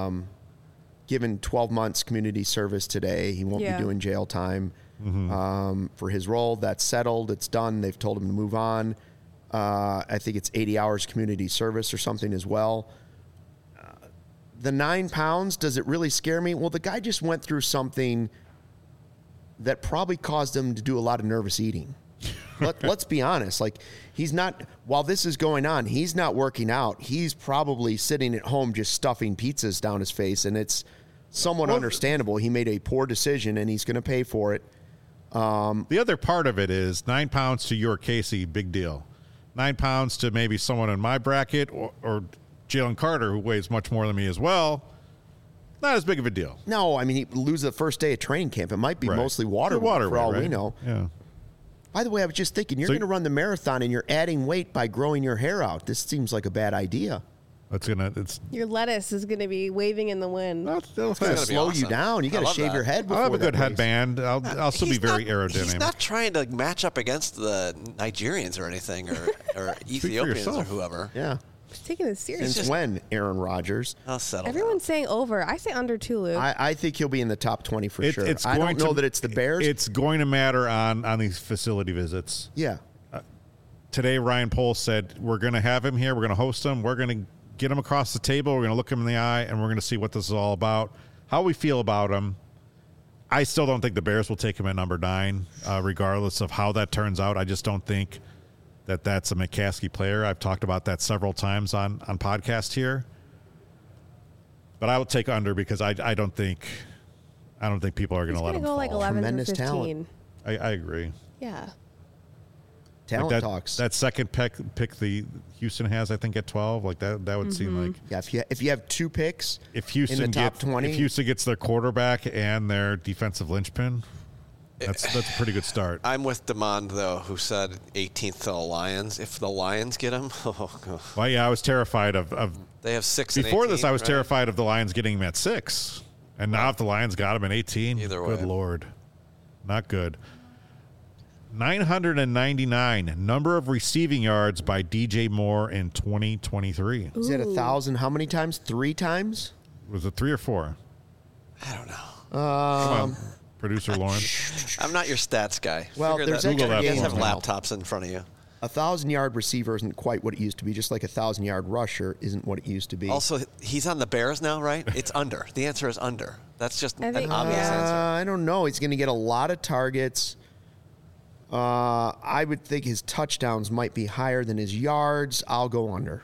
given 12 months community service today. He won't be doing jail time for his role. That's settled. It's done. They've told him to move on. I think it's 80 hours community service or something as well. The 9 pounds, does it really scare me? Well, the guy just went through something that probably caused him to do a lot of nervous eating. Let's be honest. Like, he's not, while this is going on, he's not working out. He's probably sitting at home just stuffing pizzas down his face, and it's somewhat understandable. He made a poor decision, and he's going to pay for it. The other part of it is 9 pounds to your Casey, big deal. 9 pounds to maybe someone in my bracket or Jalen Carter, who weighs much more than me as well, not as big of a deal. No, I mean, he lose the first day of training camp. It might be mostly water weight for all we know. Yeah. By the way, I was just thinking, you're going to run the marathon and you're adding weight by growing your hair out. This seems like a bad idea. Your lettuce is going to be waving in the wind. It's going to slow you down. You got to shave your head before I'll have a good race. headband. I'll still be very aerodynamic. He's not trying to match up against the Nigerians or anything, or Ethiopians or whoever. Yeah. He's taking this serious. Since when, Aaron Rodgers? I'll settle. Everyone's saying over. I say under too, Luke. I think he'll be in the top 20 for sure. It's I don't know that it's the Bears. It's going to matter on these facility visits. Yeah. Today, Ryan Poles said, we're going to have him here. We're going to host him. We're going to get him across the table. We're going to look him in the eye, and we're going to see what this is all about, how we feel about him. I still don't think the Bears will take him at number 9, regardless of how that turns out. I just don't think that's a McCaskey player. I've talked about that several times on podcast here. But I will take under because I don't think people are going to let him go fall. like 11 Tremendous or 15. talent. I agree. Yeah. Talent talks. That second pick the Houston has, I think, at 12. Like that would seem like if you have 2 picks if Houston in the top 20. If Houston gets their quarterback and their defensive linchpin, that's a pretty good start. I'm with Demond, though, who said 18th to the Lions. If the Lions get him, Well, yeah, I was terrified of they have 6 before and 18, this. I was right? terrified of the Lions getting him at 6, and now if the Lions got him at 18, Either good way. Lord, not good. 999 number of receiving yards by DJ Moore in 2023. Is it 1,000? How many times? 3 times? Was it 3 or 4? I don't know. Come on, producer Lawrence. I'm not your stats guy. Well, Figure there's that extra out. You guys games have now. laptops in front of you. 1,000-yard receiver isn't quite what it used to be. Just like 1,000-yard rusher isn't what it used to be. Also, he's on the Bears now, right? It's under. The answer is under. That's just I an think- obvious answer. I don't know. He's going to get a lot of targets. I would think his touchdowns might be higher than his yards. I'll go under.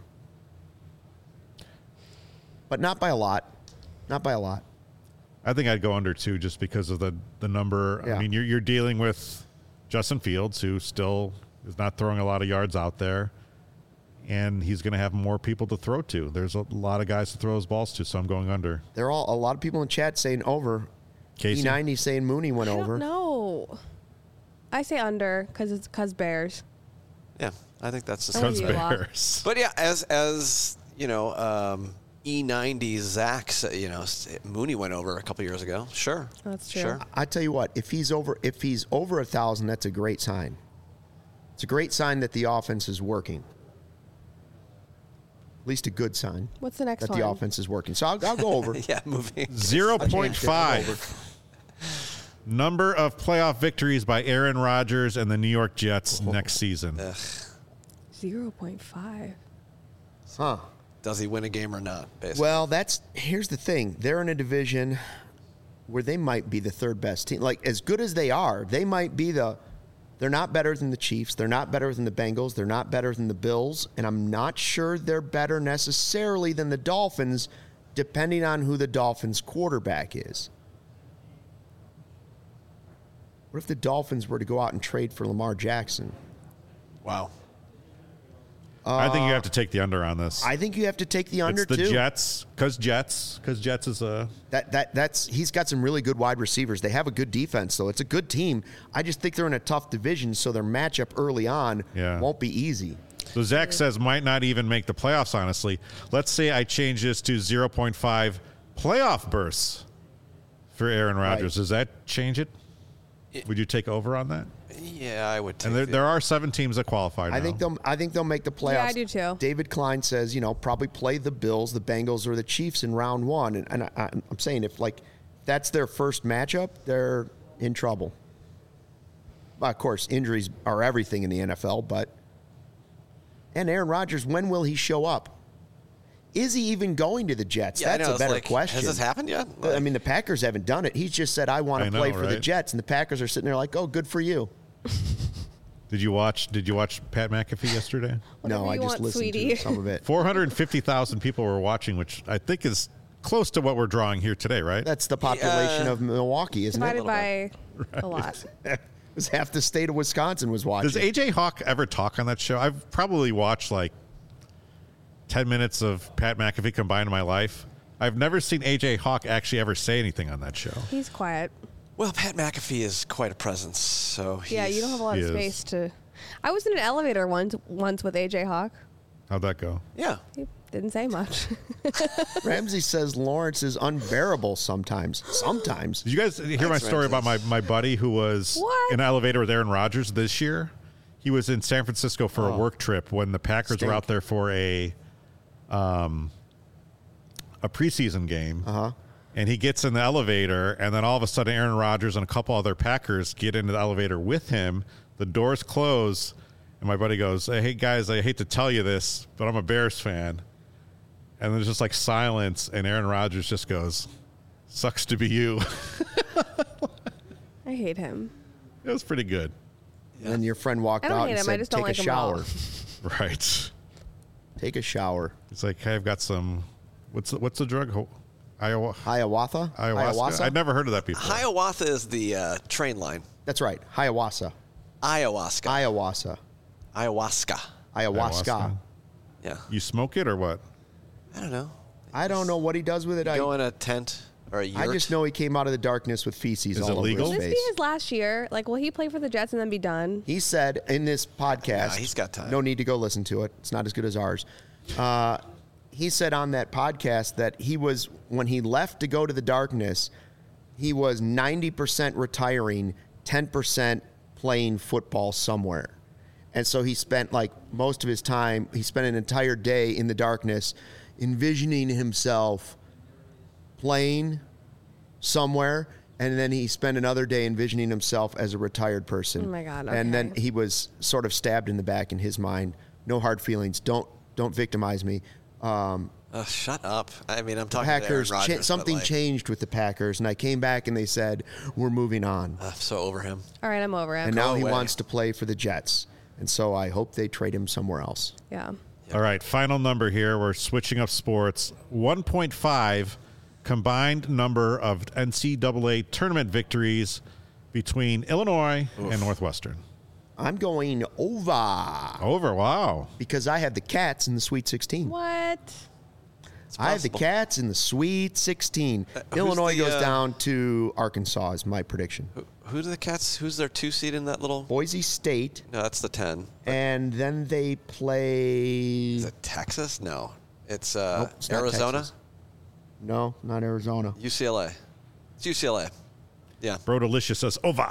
But not by a lot. Not by a lot. I think I'd go under 2 just because of the number. Yeah. I mean, you're dealing with Justin Fields, who still is not throwing a lot of yards out there, and he's going to have more people to throw to. There's a lot of guys to throw his balls to, so I'm going under. There are a lot of people in chat saying over. Casey? E90 saying Mooney went over. No. I say under because Bears. Yeah, I think that's the I'm same. with you a lot. Bears. But yeah, as you know, E90 Zach's, Mooney went over a couple years ago. Sure. That's true. Sure. I tell you what, if he's over 1,000, that's a great sign. It's a great sign that the offense is working. At least a good sign. What's the next that one? the offense is working. So I'll go over. Yeah, moving. 0.5. Number of playoff victories by Aaron Rodgers and the New York Jets next season. 0.5. Huh. Does he win a game or not? Basically. Well, here's the thing. They're in a division where they might be the third best team. Like, as good as they are, they might be they're not better than the Chiefs. They're not better than the Bengals. They're not better than the Bills. And I'm not sure they're better necessarily than the Dolphins, depending on who the Dolphins' quarterback is. What if the Dolphins were to go out and trade for Lamar Jackson? Wow. I think you have to take the under on this. I think you have to take the under it's the too. Jets, because Jets is a... That's he's got some really good wide receivers. They have a good defense, though. It's a good team. I just think they're in a tough division, so their matchup early on won't be easy. So Zach says might not even make the playoffs, honestly. Let's say I change this to 0.5 playoff bursts for Aaron Rodgers. Right. Does that change it? Would you take over on that? Yeah, I would take And there are 7 teams that qualify now. I think they'll make the playoffs. Yeah, I do too. David Klein says, probably play the Bills, the Bengals, or the Chiefs in round one. And I'm saying if that's their first matchup, they're in trouble. Well, of course, injuries are everything in the NFL, and Aaron Rodgers, when will he show up? Is he even going to the Jets? Yeah, That's a better question. Has this happened yet? I mean, the Packers haven't done it. He's just said, I want to play for the Jets, and the Packers are sitting there like, oh, good for you. Did you watch Pat McAfee yesterday? No, I just listened to some of it. 450,000 people were watching, which I think is close to what we're drawing here today, right? That's the population of Milwaukee, isn't Divided it? by a lot. It was half the state of Wisconsin was watching. Does AJ Hawk ever talk on that show? I've probably watched 10 minutes of Pat McAfee combined in my life. I've never seen AJ Hawk actually ever say anything on that show. He's quiet. Well, Pat McAfee is quite a presence, so Yeah, you don't have a lot of space to... I was in an elevator once with AJ Hawk. How'd that go? Yeah. He didn't say much. Ramsey says Lawrence is unbearable sometimes. Sometimes. Did you guys hear my story about my buddy who was in an elevator with Aaron Rodgers this year? He was in San Francisco for a work trip when the Packers were out there for a preseason game. Uh-huh. And he gets in the elevator, and then all of a sudden Aaron Rodgers and a couple other Packers get into the elevator with him. The doors close, and my buddy goes, hey, guys, I hate to tell you this, but I'm a Bears fan. And there's just silence, and Aaron Rodgers just goes, sucks to be you. I hate him. It was pretty good. And then your friend walked I don't out hate and him, I said, just don't take like a him at all. shower. Right. Take a shower. It's like, hey, I've got some, what's the drug? Hiawatha? Ayahuasca? I'd never heard of that before. Hiawatha is the train line. That's right. Hiawatha. Ayahuasca. Ayahuasca. Ayahuasca. Yeah. You smoke it or what? I don't know. I don't know what he does with it. Go in a tent or a yurt. I just know he came out of the darkness with feces all over legal? his Will this face. be his last year? Will he play for the Jets and then be done? He said in this podcast, Yeah, he's got time. No need to go listen to it. It's not as good as ours. He said on that podcast that when he left to go to the darkness, he was 90% retiring, 10% playing football somewhere. And so he spent most of his time, he spent an entire day in the darkness envisioning himself playing somewhere. And then he spent another day envisioning himself as a retired person. Oh my God, And then okay. he was sort of stabbed in the back in his mind. No hard feelings. Don't victimize me. Shut up. I mean, I'm talking to Aaron Packers, Rodgers, something but, changed with the Packers, and I came back and they said, we're moving on. I'm so over him. All right, I'm over him. And now he away. wants to play for the Jets. And so I hope they trade him somewhere else. Yeah. All right, final number here. We're switching up sports. 1.5 combined number of NCAA tournament victories between Illinois and Northwestern. I'm going over Over, wow. because I have the Cats in the Sweet 16. What? It's I have the possible. Cats in the Sweet 16. who's Illinois the, goes down to Arkansas is my prediction. Who do the Cats? Who's their 2 seed in that little? Boise State, No, that's the 10. and then they play. Is it Texas? No. It's Nope, it's not Arizona, Texas. No, not Arizona. UCLA. It's UCLA. Yeah. Bro Delicious says over.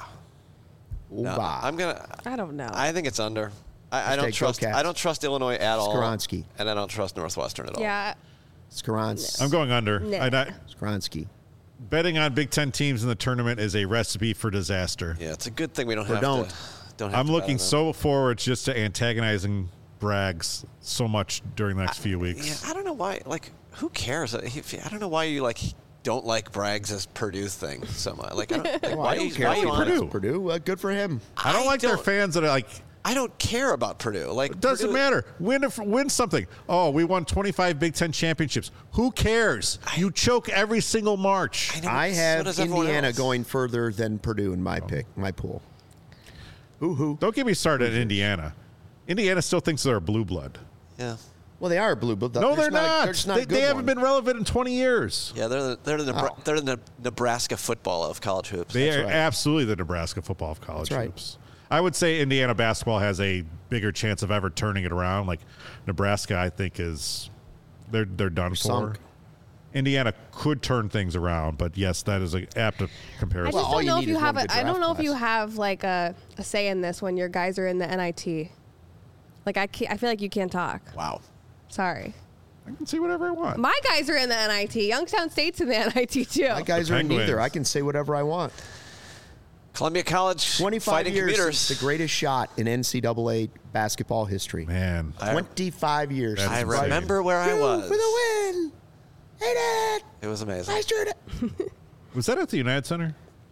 No, Oova. I'm gonna. I don't know. I think it's under. I don't Hashtag trust. go Cats. I don't trust Illinois at all. Skaronski. And I don't trust Northwestern at all. yeah. Skaronski. I'm going under. Nah. Skaronski. Betting on Big Ten teams in the tournament is a recipe for disaster. Yeah, it's a good thing we don't Or have don't. to. Don't have I'm to looking bet on so forward just to antagonizing Braggs so much during the next few them. weeks. Yeah, I don't know why. Like, who cares? I don't know why you don't like Braggs' Purdue thing so much. Like, I don't, Well, why I are don't you, care. why are you on Purdue. it? Purdue. Good for him. I don't like their fans that are like, I don't care about Purdue. Like, it doesn't Purdue- matter. Win something. Oh, we won 25 Big Ten championships. Who cares? You choke every single March. know, I so have does everyone Indiana else. going further than Purdue in my pick, my pool. Hoo-hoo. Don't get me started at Indiana. Indiana still thinks they're a blue blood. Yeah. Well, they are a blue, but No, they're not. They're just not a They good haven't one. been relevant in 20 years. Yeah, they're the Nebraska football of college hoops. They are right. absolutely the Nebraska football of college That's right. hoops. I would say Indiana basketball has a bigger chance of ever turning it around. Like Nebraska, I think they're done for. Sunk. Indiana could turn things around, but yes, that is an apt I comparison. just all don't you know if need you is have one good I don't draft know if you class. have like a say in this when your guys are in the NIT. Like I feel like you can't talk. Wow. Sorry. I can see whatever I want. My guys are in the NIT. Youngstown State's in the NIT too. My guys are in Penguins. neither. I can say whatever I want. Columbia College 25 fighting years commuters. since the greatest shot in NCAA basketball history. Man, 25 years. That's I insane. remember where I was. For the win. Hey, Dad. It was amazing. I sure did. was that at the United Center?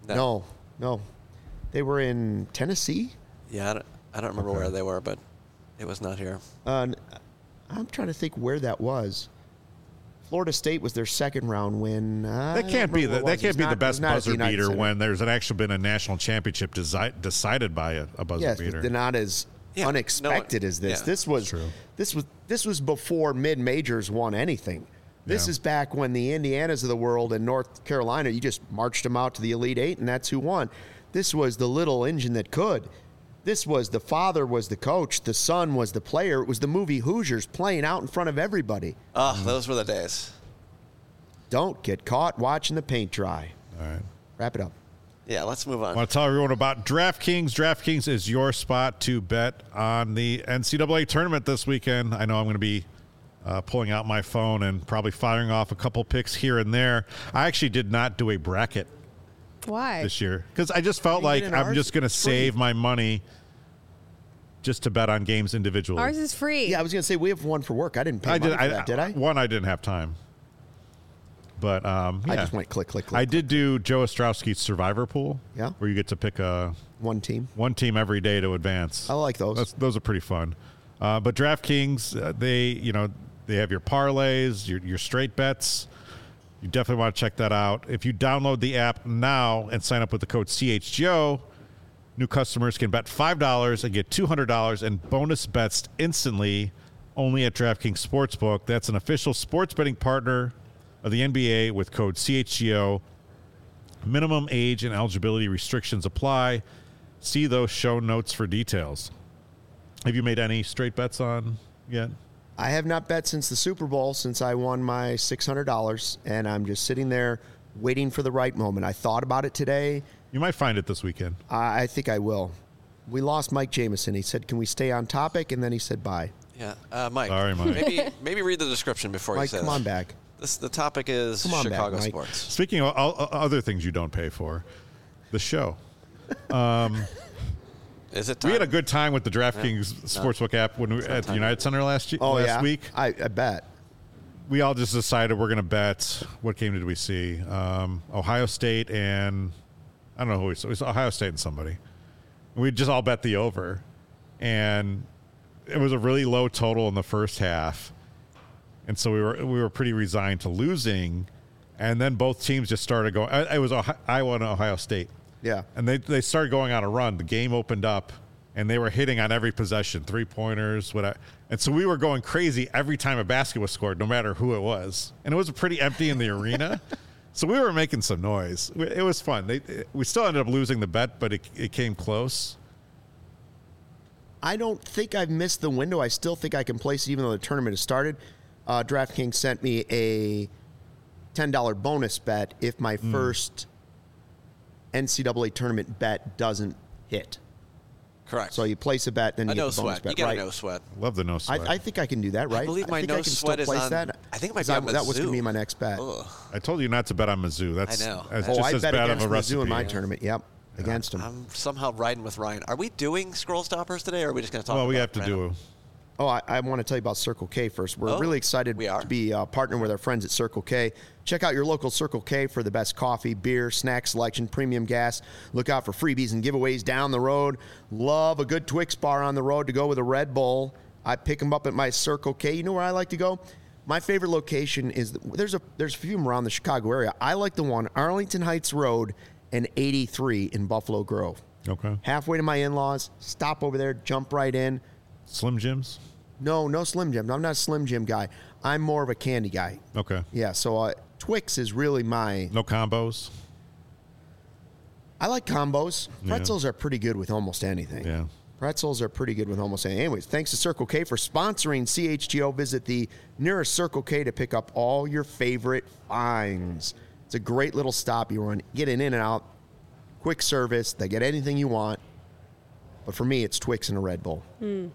No. They were in Tennessee. Yeah, I don't remember where they were, but it was not here. I'm trying to think where that was. Florida State was their second round win. That can't be the best buzzer beater when there's actually been a national championship decided by a buzzer Yes, beater. but they're not as Yeah, unexpected no one- as this. yeah. This was before mid majors won anything. This Yeah. is back when the Indianas of the world and North Carolina, you just marched them out to the Elite Eight, and that's who won. This was the little engine that could. This was the father was the coach, the son was the player. It was the movie Hoosiers playing out in front of everybody. Oh, those were the days. Don't get caught watching the paint dry. All right. Wrap it up. Yeah, let's move I on. want to tell everyone about DraftKings. DraftKings is your spot to bet on the NCAA tournament this weekend. I know I'm going to be pulling out my phone and probably firing off a couple picks here and there. I actually did not do a bracket Why? this year because I just felt You like did in I'm ours? just going to Free. save my money just to bet on games individually. Ours is free. Yeah, I was going to say we have one for work. I didn't pay I money did. for that, did I? One, I didn't have time. But I yeah. just went click, click, click. I did do Joe Ostrowski's Survivor Pool. Yeah. Where you get to pick one team. one team every day to advance. I like those. Those are pretty fun. But DraftKings, they have your parlays, your straight bets. You definitely want to check that out. If you download the app now and sign up with the code CHGO, new customers can bet $5 and get $200 in bonus bets instantly only at DraftKings Sportsbook. That's an official sports betting partner of the NBA with code CHGO. Minimum age and eligibility restrictions apply. See those show notes for details. Have you made any straight bets on yet? I have not bet since the Super Bowl, since I won my $600, and I'm just sitting there waiting for the right moment. I thought about it today. You might find it this weekend. I think I will. We lost Mike Jameson. He said, "Can we stay on topic?" And then he said, "Bye." Yeah, Mike. Sorry, Mike. Maybe read the description before you Mike, say come that. on back. The topic is Come on back, Chicago Mike. sports. Speaking of other things you don't pay for, the show. Is it time? We had a good time with the DraftKings Sportsbook app when we were at the United Center last week. I bet. We all just decided we're going to bet. What game did we see? Ohio State and I don't know who we saw. It was Ohio State and somebody. We just all bet the over, and it was a really low total in the first half, and so we were pretty resigned to losing, and then both teams just started going. It was Iowa and Ohio State. Yeah. And they started going on a run. The game opened up, and they were hitting on every possession, three-pointers, whatever. And so we were going crazy every time a basket was scored, no matter who it was. And it was pretty empty in the arena. So we were making some noise. It was fun. We still ended up losing the bet, but it came close. I don't think I've missed the window. I still think I can place it even though the tournament has started. DraftKings sent me a $10 bonus bet if my first NCAA tournament bet doesn't hit. Correct. So you place a bet, then you get the bonus bet. You get right? a no sweat. Love the no sweat. I think I can do that, right? I believe my think no I can sweat still is place on. that. I think it might be on That was going to Mizzou. be my next bet. Ugh. I told you not to bet on Mizzou. That's I know. That's Oh, just I as bet bad of against a recipe. Mizzou in my tournament. Yep, against him. I'm somehow riding with Ryan. Are we doing scroll stoppers today, or are we just going to talk Well, about we have to random? do. Oh, I want to tell you about Circle K first. We're really excited we are? to be partnering with our friends at Circle K. Check out your local Circle K for the best coffee, beer, snack selection, premium gas. Look out for freebies and giveaways down the road. Love a good Twix bar on the road to go with a Red Bull. I pick them up at my Circle K. You know where I like to go? My favorite location is there's a few of them around the Chicago area. I like the one Arlington Heights Road and 83 in Buffalo Grove. Okay. Halfway to my in-laws. Stop over there, jump right in. Slim Jims? No Slim Jim. I'm not a Slim Jim guy. I'm more of a candy guy. Okay. Yeah, so Twix is really my... No combos? I like combos. Yeah. Pretzels are pretty good with almost anything. Yeah. Pretzels are pretty good with almost anything. Anyways, thanks to Circle K for sponsoring CHGO. Visit the nearest Circle K to pick up all your favorite finds. It's a great little stop. You want to get in and out. Quick service. They get anything you want. But for me, it's Twix and a Red Bull.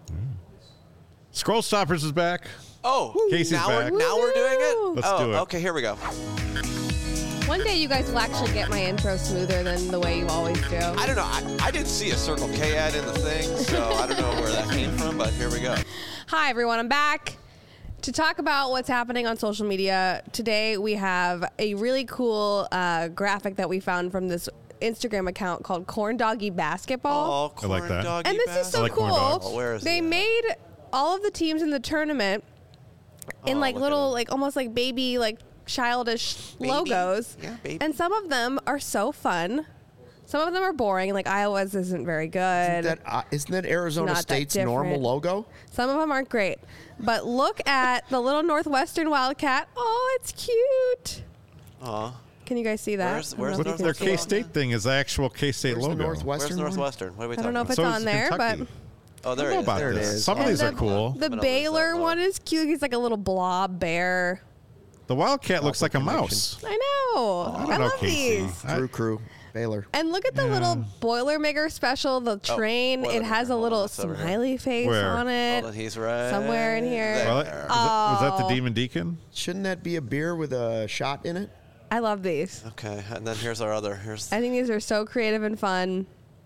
Scroll Stoppers is back. Oh, Casey's now back. Now we're doing it? Let's do it. Okay, here we go. One day you guys will actually get my intro smoother than the way you always do. I don't know. I did see a Circle K ad in the thing, so I don't know where that came from, but here we go. Hi, everyone. I'm back to talk about what's happening on social media. Today, we have a really cool graphic that we found from this Instagram account called Corn Doggy Basketball. Oh, I like corn that. doggy And this is so I like corn cool. dogs. Oh, where is They he? made all of the teams in the tournament in like look at little, him. like almost like baby, like childish Baby. logos. Yeah, baby. And some of them are so fun. Some of them are boring. Like Iowa's isn't very good. Isn't that Arizona Not that State's normal different. logo? Some of them aren't great. But look at the little Northwestern Wildcat. Oh, it's cute. Aw. Can you guys see that? Where's- I don't know where's if you What can their see it. K-State thing is the actual K-State Where's the logo. Northwestern Where's one? Northwestern? What are we I talking don't know if about? it's So on is there, Kentucky. but Oh, I there don't know it is. about There it this. is. Some of And these are cool. The I don't know what Baylor that one was. is cute. He's like a little blob bear. The Wildcat looks like a connection. mouse. I know. I I, don't know, love Casey. these. Drew Crew, Baylor. And look at the little Boilermaker special, the train. It has a Boilermaker. Hold little on, it's over here. smiley face Where? on it. Hold on, he's right Somewhere in here. there. Well, was that the Oh. Demon Deacon? Shouldn't that be a beer with a shot in it? I love these. Okay, and then here's our other. Here's I think these are so creative and fun.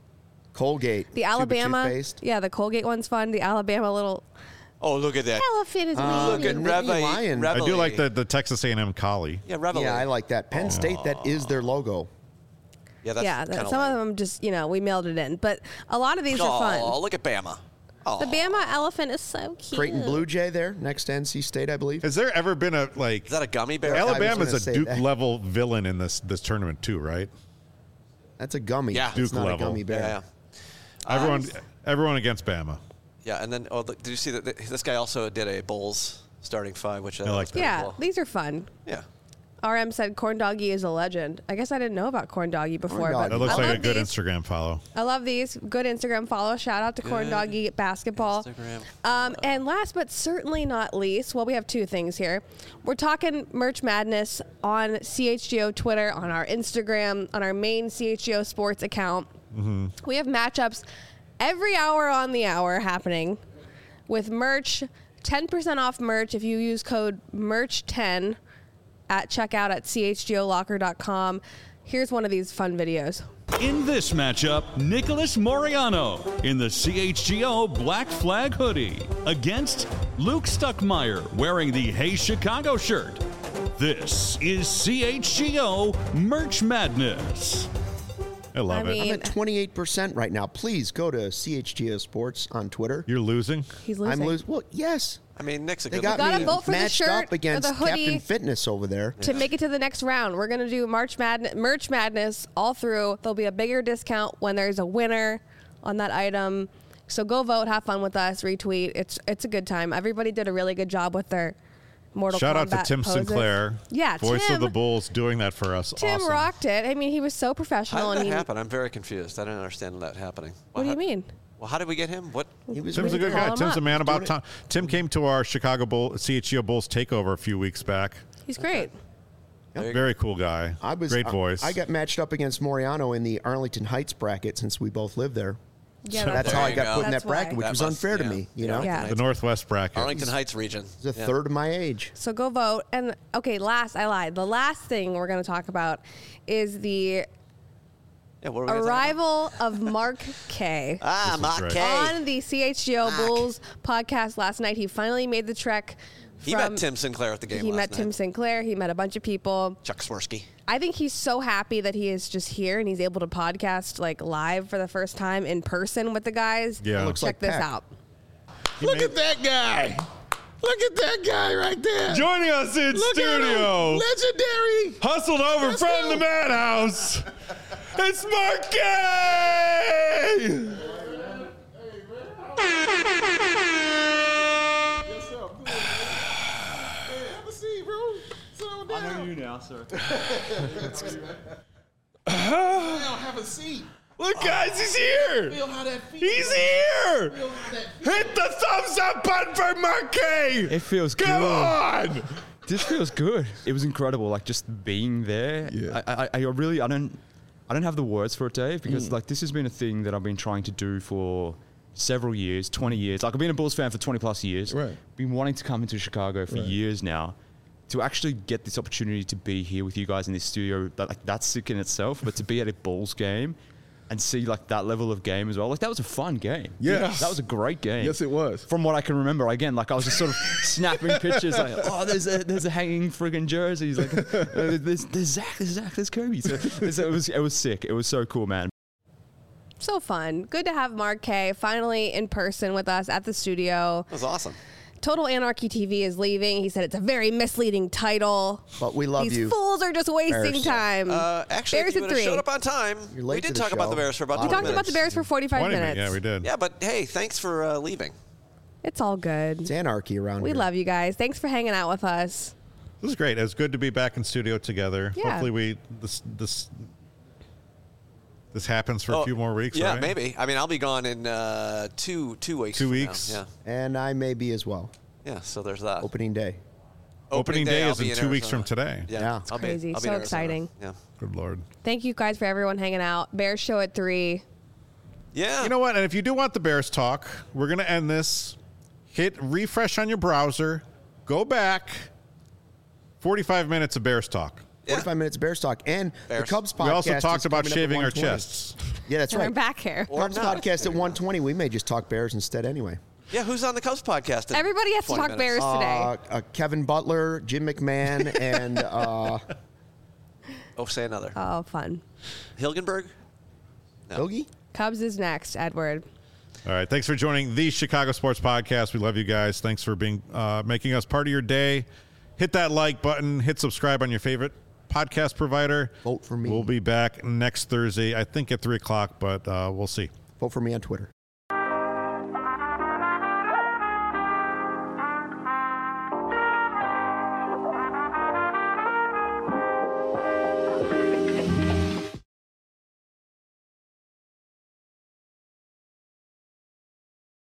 Colgate. The tube of Alabama, toothpaste. yeah, the Colgate one's fun. The Alabama little oh, look at that. elephant is Look at waving. Nittany Reveille. Lion. I do like Reveille. the Texas A&M collie. Yeah, Reveille. Yeah, I like that. Penn State, that is their logo. Yeah, that's Yeah, kinda some lame. of them just, we mailed it in. But a lot of these are Oh, fun. look at Bama. Oh, The Bama elephant is so cute. Creighton Blue Jay there, next to NC State, I believe. Has there ever been a like is that a gummy bear? Alabama's gonna a say Duke that. level villain in this tournament too, right? That's a gummy. Yeah. It's Duke not level. a gummy bear. Yeah. Everyone against Bama. Yeah, and then look, did you see that this guy also did a Bulls starting five, which I like thought was that. pretty Yeah, cool. these are fun. Yeah. RM said Corn Doggy is a legend. I guess I didn't know about Corn Doggy before, Corn but That looks I like a love good these. Instagram follow. I love these. Good Instagram follow. Shout out to Corn Good Doggy Basketball. Instagram And last but certainly not least, well, we have two things here. We're talking Merch Madness on CHGO Twitter, on our Instagram, on our main CHGO Sports account. We have matchups every hour on the hour happening with merch. 10% off merch if you use code MERCH10 at checkout at chgolocker.com. Here's one of these fun videos. In this matchup, Nicholas Moriano in the CHGO Black Flag hoodie against Luke Stuckmeyer wearing the Hey Chicago shirt. This is CHGO Merch Madness. I love I it. mean- I'm at 28% right now. Please go to CHGO Sports on Twitter. You're losing. He's losing. I'm losing. Well, yes. I mean, Nick's a They good got Gotta me vote for the matched shirt up or against the hoodie. Captain Fitness over there. To make it to the next round, we're going to do Merch Madness all through. There'll be a bigger discount when there's a winner on that item. So go vote, have fun with us, retweet. It's a good time. Everybody did a really good job with their Mortal Shout out Kombat to Tim poses. Sinclair. Yeah, voice Tim. of the Bulls, doing that for us. Tim awesome. rocked it. I mean, he was so professional. How did and that he, happen? I'm very confused. I don't understand that happening. What do you mean? Well, how did we get him? What? He was Tim's a good call guy. him Tim's up. a man about Doing time. Tim came to our Chicago CHGO Bulls takeover a few weeks back. He's great. Very cool guy. Great voice. I got matched up against Moriano in the Arlington Heights bracket since we both lived there. Yeah, That's There how I you got go. put in That's that bracket, why. which That was must- unfair to yeah. me. You Yeah. know, Yeah. the Northwest bracket. Arlington Heights region. he's a third of my age. So go vote. And okay, I lied. The last thing we're going to talk about is the Yeah, what are we gonna talk arrival of Mark K. about? Ah, This is Mark great. K. On the CHGO Bulls podcast last night. He finally made the trek. He met Tim Sinclair at the game He last met night. Tim Sinclair. He met a bunch of people. Chuck Swirsky. I think he's so happy that he is just here and he's able to podcast like live for the first time in person with the guys. Yeah. Looks Check like this Pac. out. Look at that guy. Look at that guy right there. Joining us in Look at studio, him. Legendary. hustled over Let's from go. the madhouse. It's Mark Gay! What's up, dude? Hey, have a seat, bro. Sit on down. I know you now, sir. Now have a seat. Look, guys, he's here! Feel how that feels. He's here! Feel how that feels. Hit the thumbs up button for Mark Gay! It feels Come good. on! This feels good. It was incredible. Like just being there. Yeah. I really I don't have the words for it, Dave, because like this has been a thing that I've been trying to do for several years, 20 years. Like I've been a Bulls fan for 20 plus years. Right. Been wanting to come into Chicago for Right. years now. To actually get this opportunity to be here with you guys in this studio, that's sick in itself. But to be at a Bulls game and see like that level of game as well, like that was a fun game. Yes. That was a great game. Yes, it was. From what I can remember, again, like I was just sort of snapping pictures, like, oh, there's a hanging friggin' jerseys, like there's Zach, there's Kobe. So it was sick. It was so cool, man. So fun. Good to have Mark K finally in person with us at the studio. That was awesome. Total Anarchy TV is leaving. He said it's a very misleading title. But we love These you. fools are just wasting Bears. time. Actually, Bears if you at would have 3. showed up on time, You're late we to did the talk about show. the Bears for about We 20 talked about the Bears for 45 20 minutes. Yeah, we did. Yeah, but hey, thanks for leaving. It's all good. It's anarchy around We here. love you guys. Thanks for hanging out with us. This is great. It's good to be back in studio together. Yeah. Hopefully this happens for a few more weeks, Yeah, right? maybe. I mean, I'll be gone in 2 weeks. 2 from weeks? Now. And I may be as well. Yeah, so there's that. Opening day. Opening day I'll is be in 2 weeks Arizona. from today. Yeah. It's I'll be- crazy. I'll be So in Arizona. exciting. Yeah. Good Lord. Thank you guys for everyone hanging out. Bears show at 3. Yeah. You know what? And if you do want the Bears talk, we're going to end this. Hit refresh on your browser. Go back. 45 minutes of Bears talk. 45 minutes of Bears talk. And Bears. the Cubs podcast We also is talked about coming up at shaving our 1:20. chests. Yeah, that's And we're right. back here. Or Cubs not. podcast at 1:20. We may just talk Bears instead anyway. Yeah, who's on the Cubs podcast? in Everybody has to 20 talk minutes? Bears today. Kevin Butler, Jim McMahon, and Oh, say another. Oh, fun. Hilgenberg? Hoagie. Cubs is next, Edward. All right. Thanks for joining the Chicago Sports Podcast. We love you guys. Thanks for being making us part of your day. Hit that like button. Hit subscribe on your favorite podcast provider. Vote for me. We'll be back next Thursday, I think at 3 o'clock, but we'll see. Vote for me on Twitter.